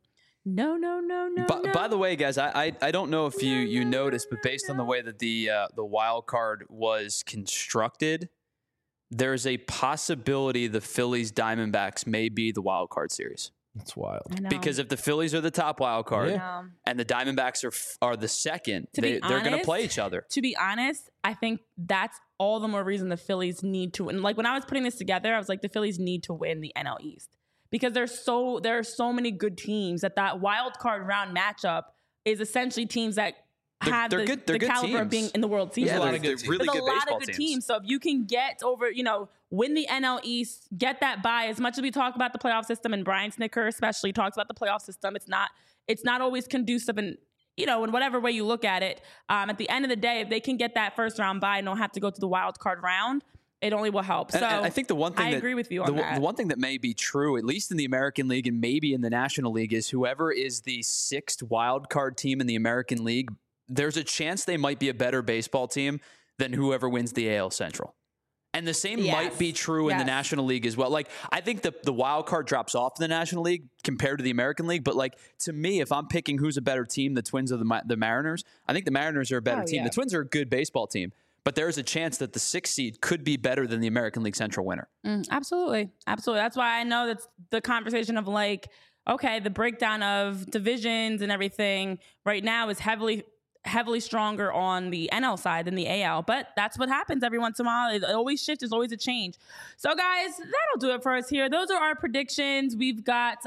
A: No.
C: By the way, guys, I don't know if you noticed, but based on the way that the wild card was constructed, there's a possibility the Phillies Diamondbacks may be the wild card series.
B: That's wild.
C: Because if the Phillies are the top wild card and the Diamondbacks are the second, they're going to play each other.
A: To be honest, I think that's all the more reason the Phillies need to win. Like when I was putting this together, I was like, the Phillies need to win the NL East because there are so many good teams that wild card round matchup is essentially teams that have the caliber
C: teams.
A: of being in the World Series.
C: Yeah,
B: really
A: There's a lot of good teams. So if you can get over, win the NL East, get that bye. As much as we talk about the playoff system, and Brian Snicker especially talks about the playoff system, it's not always conducive in whatever way you look at it. At the end of the day, if they can get that first round bye and don't have to go to the wild card round, it only will help. So
C: and I think the one thing
A: I agree with you on that.
C: The one thing that may be true, at least in the American League and maybe in the National League, is whoever is the 6th wild card team in the American League, there's a chance they might be a better baseball team than whoever wins the AL Central. And the same might be true in the National League as well. Like, I think the wild card drops off in the National League compared to the American League. But, to me, if I'm picking who's a better team, the Twins or the Mariners, I think the Mariners are a better team. The Twins are a good baseball team. But there's a chance that the 6th seed could be better than the American League Central winner.
A: Absolutely. That's why I know that's the conversation of okay, the breakdown of divisions and everything right now is heavily stronger on the NL side than the AL, but that's what happens every once in a while. It always shifts. There's always a change. So guys, that'll do it for us here. Those are our predictions. We've got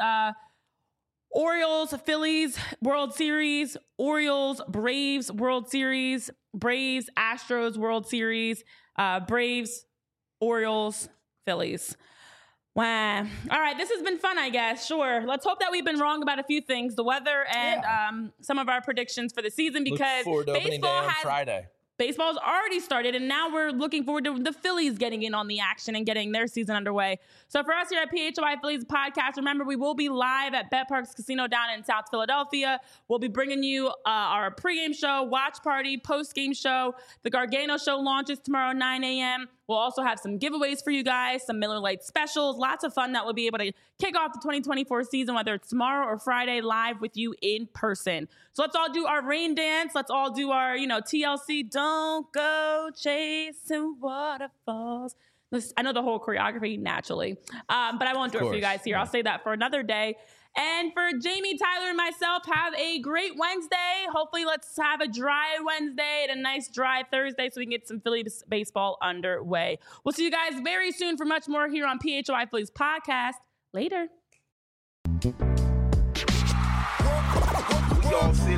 A: Orioles, Phillies, World Series, Orioles, Braves, World Series, Braves, Astros, World Series, Braves, Orioles, Phillies. Wow. All right. This has been fun, I guess. Sure. Let's hope that we've been wrong about a few things, the weather and some of our predictions for the season, because
B: baseball has Friday.
A: baseball's already started, and now we're looking forward to the Phillies getting in on the action and getting their season underway. So for us here at PHY Phillies Podcast, remember, we will be live at BetParks Casino down in South Philadelphia. We'll be bringing you our pregame show, watch party, postgame show. The Gargano show launches tomorrow, 9 a.m. We'll also have some giveaways for you guys, some Miller Lite specials, lots of fun that we'll be able to kick off the 2024 season, whether it's tomorrow or Friday, live with you in person. So let's all do our rain dance. Let's all do our, TLC, don't go chasing waterfalls. I know the whole choreography naturally, but I won't do it for you guys here. I'll say that for another day. And for Jamie, Tyler, and myself, have a great Wednesday. Hopefully, let's have a dry Wednesday and a nice dry Thursday so we can get some Phillies baseball underway. We'll see you guys very soon for much more here on PHY Phillies Podcast. Later.